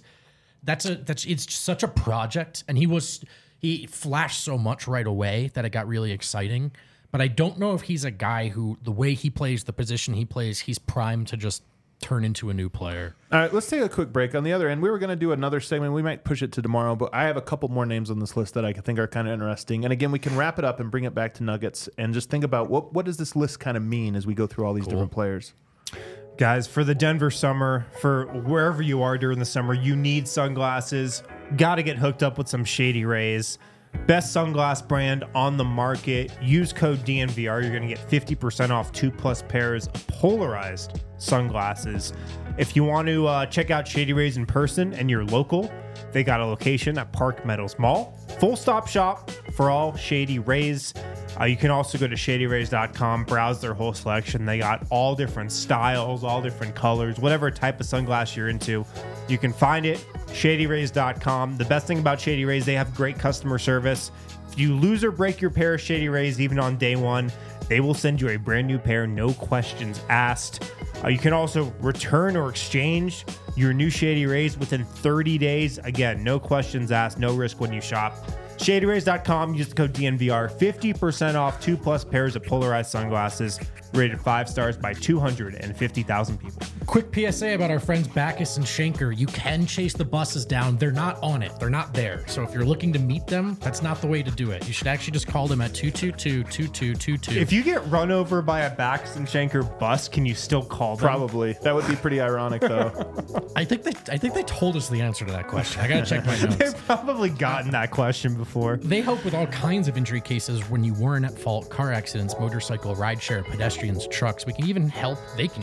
It's such a project, and he flashed so much right away that it got really exciting. But I don't know if he's a guy who, the way he plays, the position he plays, he's primed to just turn into a new player. All right, let's take a quick break. On the other end, we were going to do another segment. We might push it to tomorrow, but I have a couple more names on this list that I think are kind of interesting. And again, we can wrap it up and bring it back to Nuggets and just think about what does this list kind of mean as we go through all these different players. Guys, for the Denver summer, for wherever you are during the summer, you need sunglasses. Got to get hooked up with some Shady Rays. Best sunglass brand on the market. Use code DNVR. You're going to get 50% off 2+ pairs of polarized sunglasses. If you want to check out Shady Rays in person and you're local, they got a location at Park Meadows Mall. Full stop shop for all Shady Rays. You can also go to shadyrays.com, browse their whole selection. They got all different styles, all different colors, whatever type of sunglass you're into. You can find it, shadyrays.com. The best thing about Shady Rays, they have great customer service. If you lose or break your pair of Shady Rays, even on day one, they will send you a brand new pair, no questions asked. You can also return or exchange your new Shady Rays within 30 days. Again, no questions asked, no risk when you shop. ShadyRays.com, use the code DNVR, 50% off 2+ pairs of polarized sunglasses, rated 5 stars by 250,000 people. Quick PSA about our friends Backus and Schenker. You can chase the buses down. They're not on it. They're not there. So if you're looking to meet them, that's not the way to do it. You should actually just call them at 222-2222. If you get run over by a Backus and Schenker bus, can you still call them? Probably. That would be pretty ironic, though. I think they told us the answer to that question. I gotta check my notes. They've probably gotten that question before. They help with all kinds of injury cases when you weren't at fault: car accidents, motorcycle, rideshare, pedestrians, trucks. They can even help,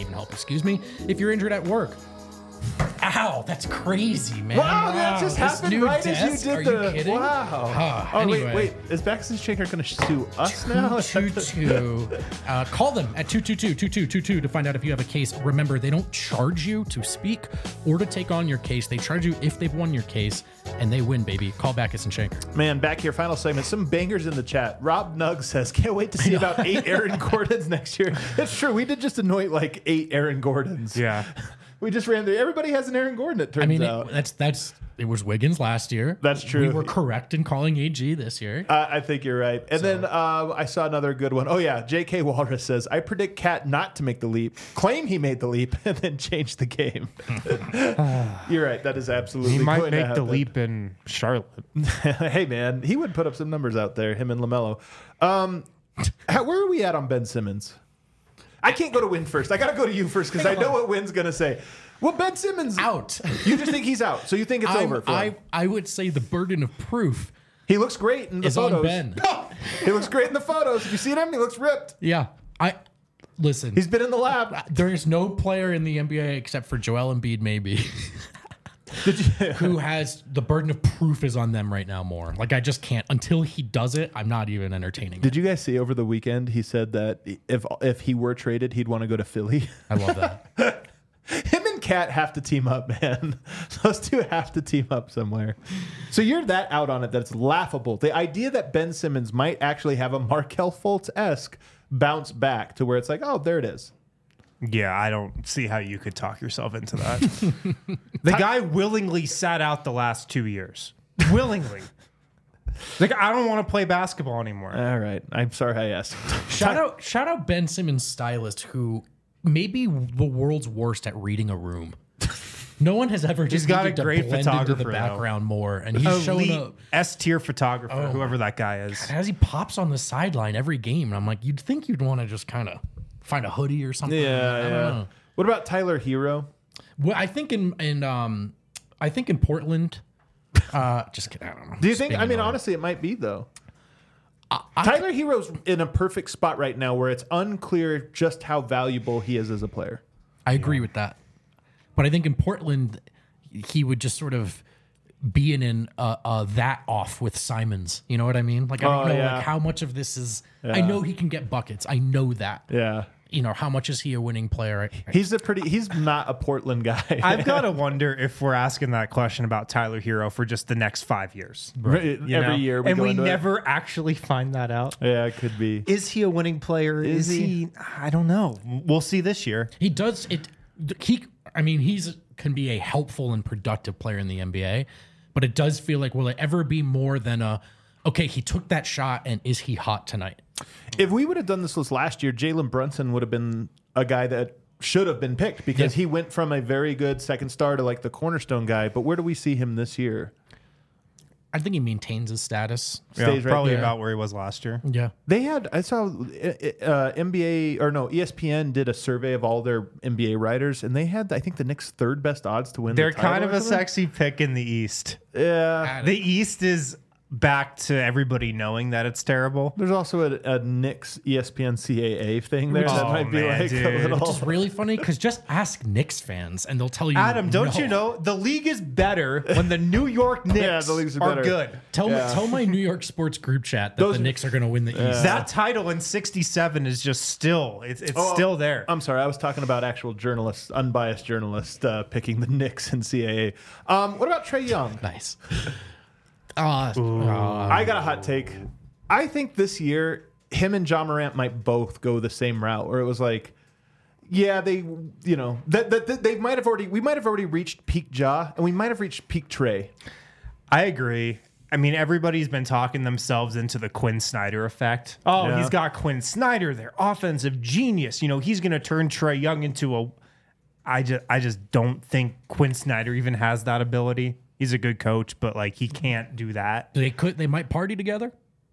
if you're injured at work. Ow, that's crazy, man. Wow, that just this happened new right desk? as you did Are you kidding? Wow. Anyway. Wait. Is Backus and Schenker going to sue us now? 222. Call them at 222-2222 to find out if you have a case. Remember, they don't charge you to speak or to take on your case. They charge you if they've won your case, and they win, baby. Call Backus and Schenker. Man, back here, final segment. Some bangers in the chat. Rob Nugg says, can't wait to see about 8 Aaron Gordons next year. It's true. We did just anoint like 8 Aaron Gordons. Yeah. We just ran through. Everybody has an Aaron Gordon, it turns out. It was Wiggins last year. That's true. We were correct in calling AG this year. I think you're right. And then I saw another good one. Oh, yeah. J.K. Walrus says, I predict Cat not to make the leap, claim he made the leap, and then change the game. You're right. That is absolutely He might going to make the happen. leap in Charlotte. Hey, man. He would put up some numbers out there, him and LaMelo. Where are we at on Ben Simmons? I can't go to Win first. I got to go to you first because I know what Win's going to say. Well, Ben Simmons out. You just think he's out, so you think it's over for him. I would say the burden of proof He looks great in the is photos. on Ben. He looks great in the photos. If you seen him, he looks ripped. Yeah. Listen. He's been in the lab. There is no player in the NBA except for Joel Embiid, maybe, who has the burden of proof is on them right now more. Like, I just can't. Until he does it, I'm not even entertaining Did it. you guys see over the weekend? He said that if he were traded, he'd want to go to Philly. I love that. Him and Cat have to team up, man. Those two have to team up somewhere. So you're that out on it that it's laughable. The idea that Ben Simmons might actually have a Markelle Fultz-esque bounce back to where it's like, oh, there it is. Yeah, I don't see how you could talk yourself into that. The guy willingly sat out the last 2 years. Willingly. Like, I don't want to play basketball anymore. All right. I'm sorry I asked. Shout out Ben Simmons' stylist, who may be the world's worst at reading a room. No one has ever just got a needed to great blend into the photographer, background more, and he's showing Elite up S-tier photographer, whoever that guy is. as he pops on the sideline every game, and I'm like, you'd think you'd want to just kind of find a hoodie or something. I don't know. What about Tyler Hero? Well, I think in Portland. Just kidding. I don't know. Do you think? I mean, honestly, it might be though. Tyler Hero's in a perfect spot right now where it's unclear just how valuable he is as a player. I agree with that, but I think in Portland, he would just sort of be in that off with Simons. You know what I mean? Like, I don't know like how much of this is. Yeah. I know he can get buckets. I know that. Yeah. You know, how much is he a winning player? He's not a Portland guy. I've got to wonder if we're asking that question about Tyler Hero for just the next 5 years. Right. Every year. We never actually find that out. Yeah, it could be. Is he a winning player? Is he? I don't know. We'll see this year. He does it. He's can be a helpful and productive player in the NBA, but it does feel like, will it ever be more than okay, he took that shot, and is he hot tonight? If we would have done this last year, Jalen Brunson would have been a guy that should have been picked because he went from a very good second star to like the cornerstone guy. But where do we see him this year? I think he maintains his status. Stays right probably there. about where he was last year. Yeah. I saw ESPN did a survey of all their NBA writers, and they had, I think, the Knicks' third best odds to win. They're the title kind of or a something. sexy pick in the East. Yeah. The East is back to everybody knowing that it's terrible. There's also a Knicks ESPN CAA thing there that might be like dude. a little. Which is really funny because just ask Knicks fans and they'll tell you. Adam, don't you know the league is better when the New York Knicks the leagues are better. good? Tell my New York sports group chat that the Knicks are going to win the East. That title in '67 is just still still there. I'm sorry, I was talking about actual journalists, unbiased journalists picking the Knicks and CAA. What about Trae Young? Nice. I got a hot take. I think this year, him and John Morant might both go the same route, where it was like, yeah, they might have already reached peak Ja, and we might have reached peak Trae. I agree. I mean, everybody's been talking themselves into the Quinn Snyder effect. Oh, Yeah. he's got Quinn Snyder, their offensive genius. You know, he's going to turn Trae Young into I just don't think Quinn Snyder even has that ability. He's a good coach, but like he can't do that. They might party together.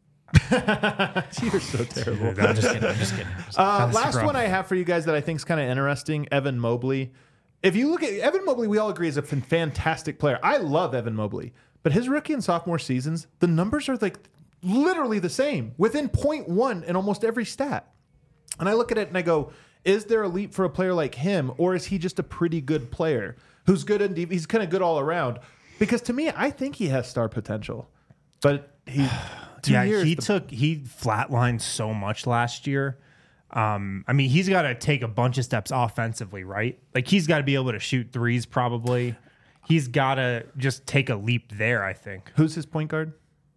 You're so terrible. I'm just kidding. Last one I have for you guys that I think is kind of interesting, Evan Mobley. If you look at Evan Mobley, we all agree is a fantastic player. I love Evan Mobley, but his rookie and sophomore seasons, the numbers are like literally the same, within 0.1 in almost every stat. And I look at it and I go, is there a leap for a player like him, or is he just a pretty good player who's good and he's kind of good all around? Because to me, I think he has star potential, but he flatlined so much last year. I mean, he's got to take a bunch of steps offensively, right? Like he's got to be able to shoot threes. Probably, he's got to just take a leap there. I think. Who's his point guard?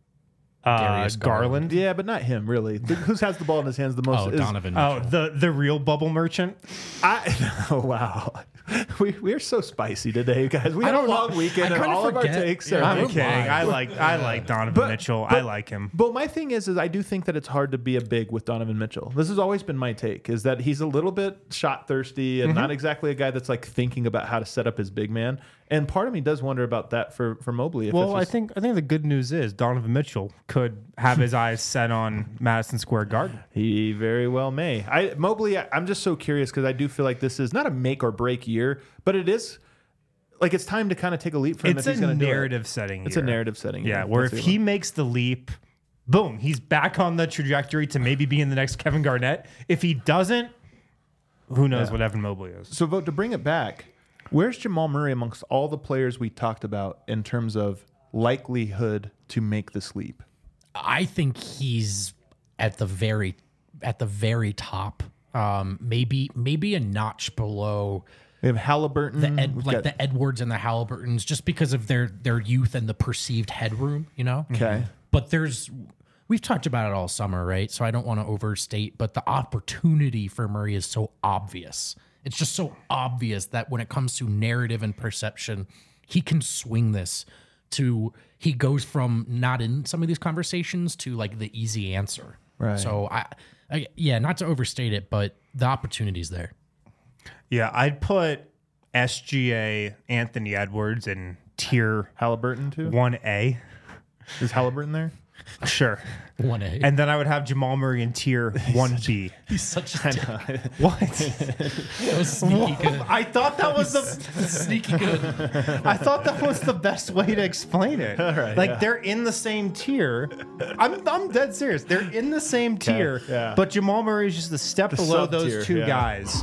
Darius Garland. Yeah, but not him, really. Who has the ball in his hands the most? Donovan Mitchell. The real bubble merchant. Oh, wow. We're so spicy today, guys. We had a long weekend and all of our takes are... I'm kidding. I like Donovan Mitchell. I like him. But my thing is I do think that it's hard to be a big with Donovan Mitchell. This has always been my take, is that he's a little bit shot thirsty and not exactly a guy that's like thinking about how to set up his big man. And part of me does wonder about that for Mobley. Well, I think the good news is Donovan Mitchell could have his eyes set on Madison Square Garden. He very well may. Mobley, I'm just so curious because I do feel like this is not a make or break year, but it is like it's time to kind of take a leap for him. It's a narrative setting. It's a narrative setting. Yeah, where if he makes the leap, boom, he's back on the trajectory to maybe being the next Kevin Garnett. If he doesn't, who knows what Evan Mobley is. So, Vogt, to bring it back, where's Jamal Murray amongst all the players we talked about in terms of likelihood to make this leap? I think he's at the very top. Maybe a notch below. We have Halliburton, the Edwards and the Halliburtons, just because of their youth and the perceived headroom, you know. Okay, but we've talked about it all summer, right? So I don't want to overstate, but the opportunity for Murray is so obvious. It's just so obvious that when it comes to narrative and perception, he can swing this to, he goes from not in some of these conversations to like the easy answer. Right. So I not to overstate it, but the opportunity's there. Yeah, I'd put SGA Anthony Edwards in tier Halliburton too. 1A. Is Halliburton there? Sure. 1A. And then I would have Jamal Murray in tier 1B. He's such a dick. What? That was sneaky good. I thought that was sneaky good. I thought that was the best way to explain it. All right, they're in the same tier. I'm dead serious. They're in the same tier, but Jamal Murray is just a step below those two guys.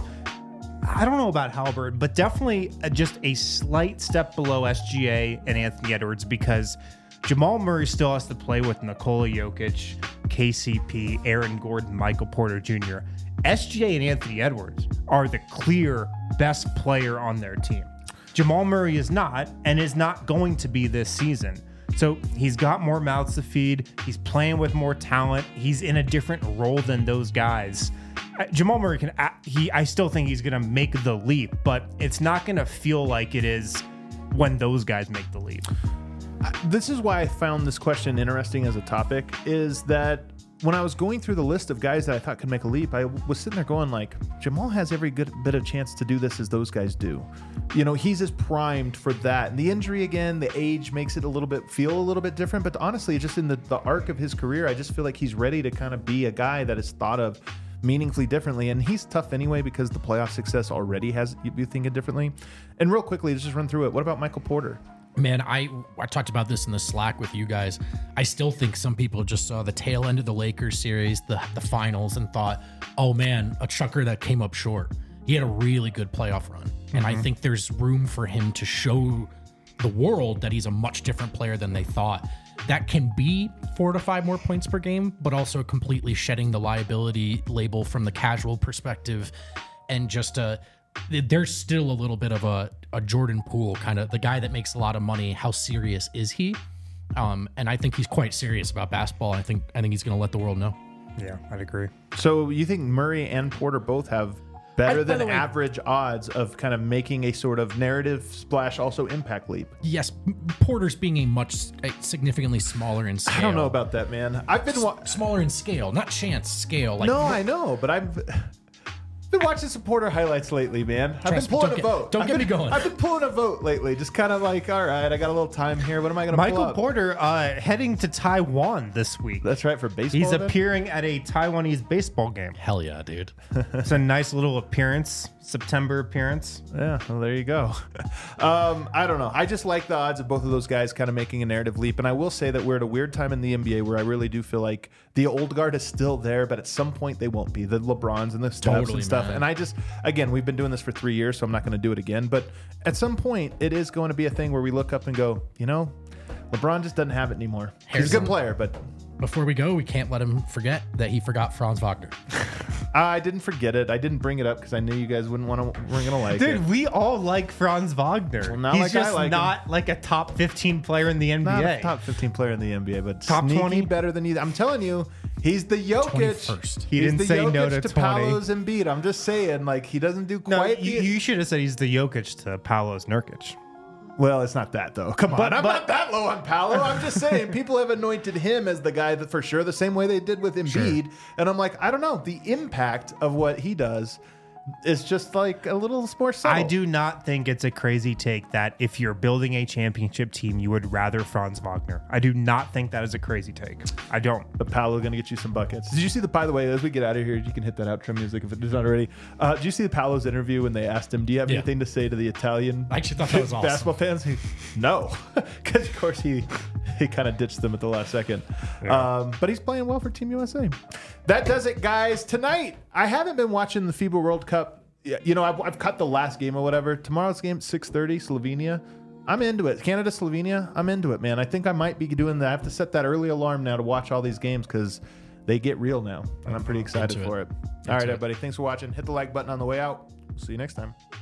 I don't know about Halliburton, but definitely just a slight step below SGA and Anthony Edwards, because Jamal Murray still has to play with Nikola Jokic, KCP, Aaron Gordon, Michael Porter Jr. SGA and Anthony Edwards are the clear best player on their team. Jamal Murray is not, and is not going to be this season. So he's got more mouths to feed. He's playing with more talent. He's in a different role than those guys. Jamal Murray I still think he's going to make the leap, but it's not going to feel like it is when those guys make the leap. This is why I found this question interesting as a topic, is that when I was going through the list of guys that I thought could make a leap, I was sitting there going like, Jamal has every good bit of chance to do this as those guys do. You know, he's as primed for that. And the injury again, the age makes it feel a little bit different. But honestly, just in the arc of his career, I just feel like he's ready to kind of be a guy that is thought of meaningfully differently. And he's tough anyway because the playoff success already has you thinking differently. And real quickly, let's just run through it. What about Michael Porter? Man, I talked about this in the Slack with you guys. I still think some people just saw the tail end of the Lakers series, the finals, and thought, oh man, a chucker that came up short. He had a really good playoff run. And I think there's room for him to show the world that he's a much different player than they thought. That can be 4 to 5 more points per game, but also completely shedding the liability label from the casual perspective. And just there's still a little bit of a Jordan Poole, kind of the guy that makes a lot of money. How serious is he? And I think he's quite serious about basketball. I think he's going to let the world know. Yeah, I'd agree. So you think Murray and Porter both have better than average odds of kind of making a sort of narrative splash, also impact leap? Yes, Porter's being significantly smaller in scale. I don't know about that, man. I've been smaller in scale, not chance scale. No, I know, but been watching supporter highlights lately, man. I've been pulling a vote. Don't get me going. I've been pulling a vote lately. Just kind of like, all right, I got a little time here. What am I going to pull Michael up? Porter heading to Taiwan this week. That's right, for baseball. He's then? appearing at a Taiwanese baseball game. Hell yeah, dude. It's a nice little appearance, September appearance. Yeah, well, there you go. I don't know. I just like the odds of both of those guys kind of making a narrative leap. And I will say that we're at a weird time in the NBA where I really do feel like the old guard is still there, but at some point they won't be. The LeBrons and the Stephs and stuff. Man. And I just, again, we've been doing this for 3 years, so I'm not going to do it again. But at some point, it is going to be a thing where we look up and go, you know, LeBron just doesn't have it anymore. He's a good player, but... Before we go, we can't let him forget that he forgot Franz Wagner. I didn't forget it. I didn't bring it up because I knew you guys weren't going to like it. Dude, we all like Franz Wagner. Well, not He's like just I like not like a top 15 player in the NBA. Not a top 15 player in the NBA, but Top sneaky 20? better than either. I'm telling you, he's the Jokic. 21st. He He's didn't the say Jokic no to 20. Paolo's Embiid. I'm just saying, like, he doesn't do No, quite. you should have said he's the Jokic to Paolo's Nurkic. Well, it's not that though. Come on, I'm but- not that low on Paolo. I'm just saying people have anointed him as the guy that for sure, the same way they did with Embiid. And I'm like, I don't know, the impact of what he does is just like a little more subtle. I do not think it's a crazy take that if you're building a championship team, you would rather Franz Wagner. I do not think that is a crazy take. I don't. But Paolo going to get you some buckets. Did you see by the way, as we get out of here, you can hit that outro music if it is not already. Did you see the Paolo's interview when they asked him, do you have anything to say to the Italian I actually thought that was awesome. basketball fans? No. Because, of course, he kind of ditched them at the last second. Yeah. But he's playing well for Team USA. That does it, guys. Tonight, I haven't been watching the FIBA World Cup. You know, I've cut the last game or whatever. Tomorrow's game, 6:30, Slovenia. I'm into it. Canada, Slovenia, I'm into it, man. I think I might be doing that. I have to set that early alarm now to watch all these games because they get real now. And I'm pretty excited for it. All right, everybody. Thanks for watching. Hit the like button on the way out. See you next time.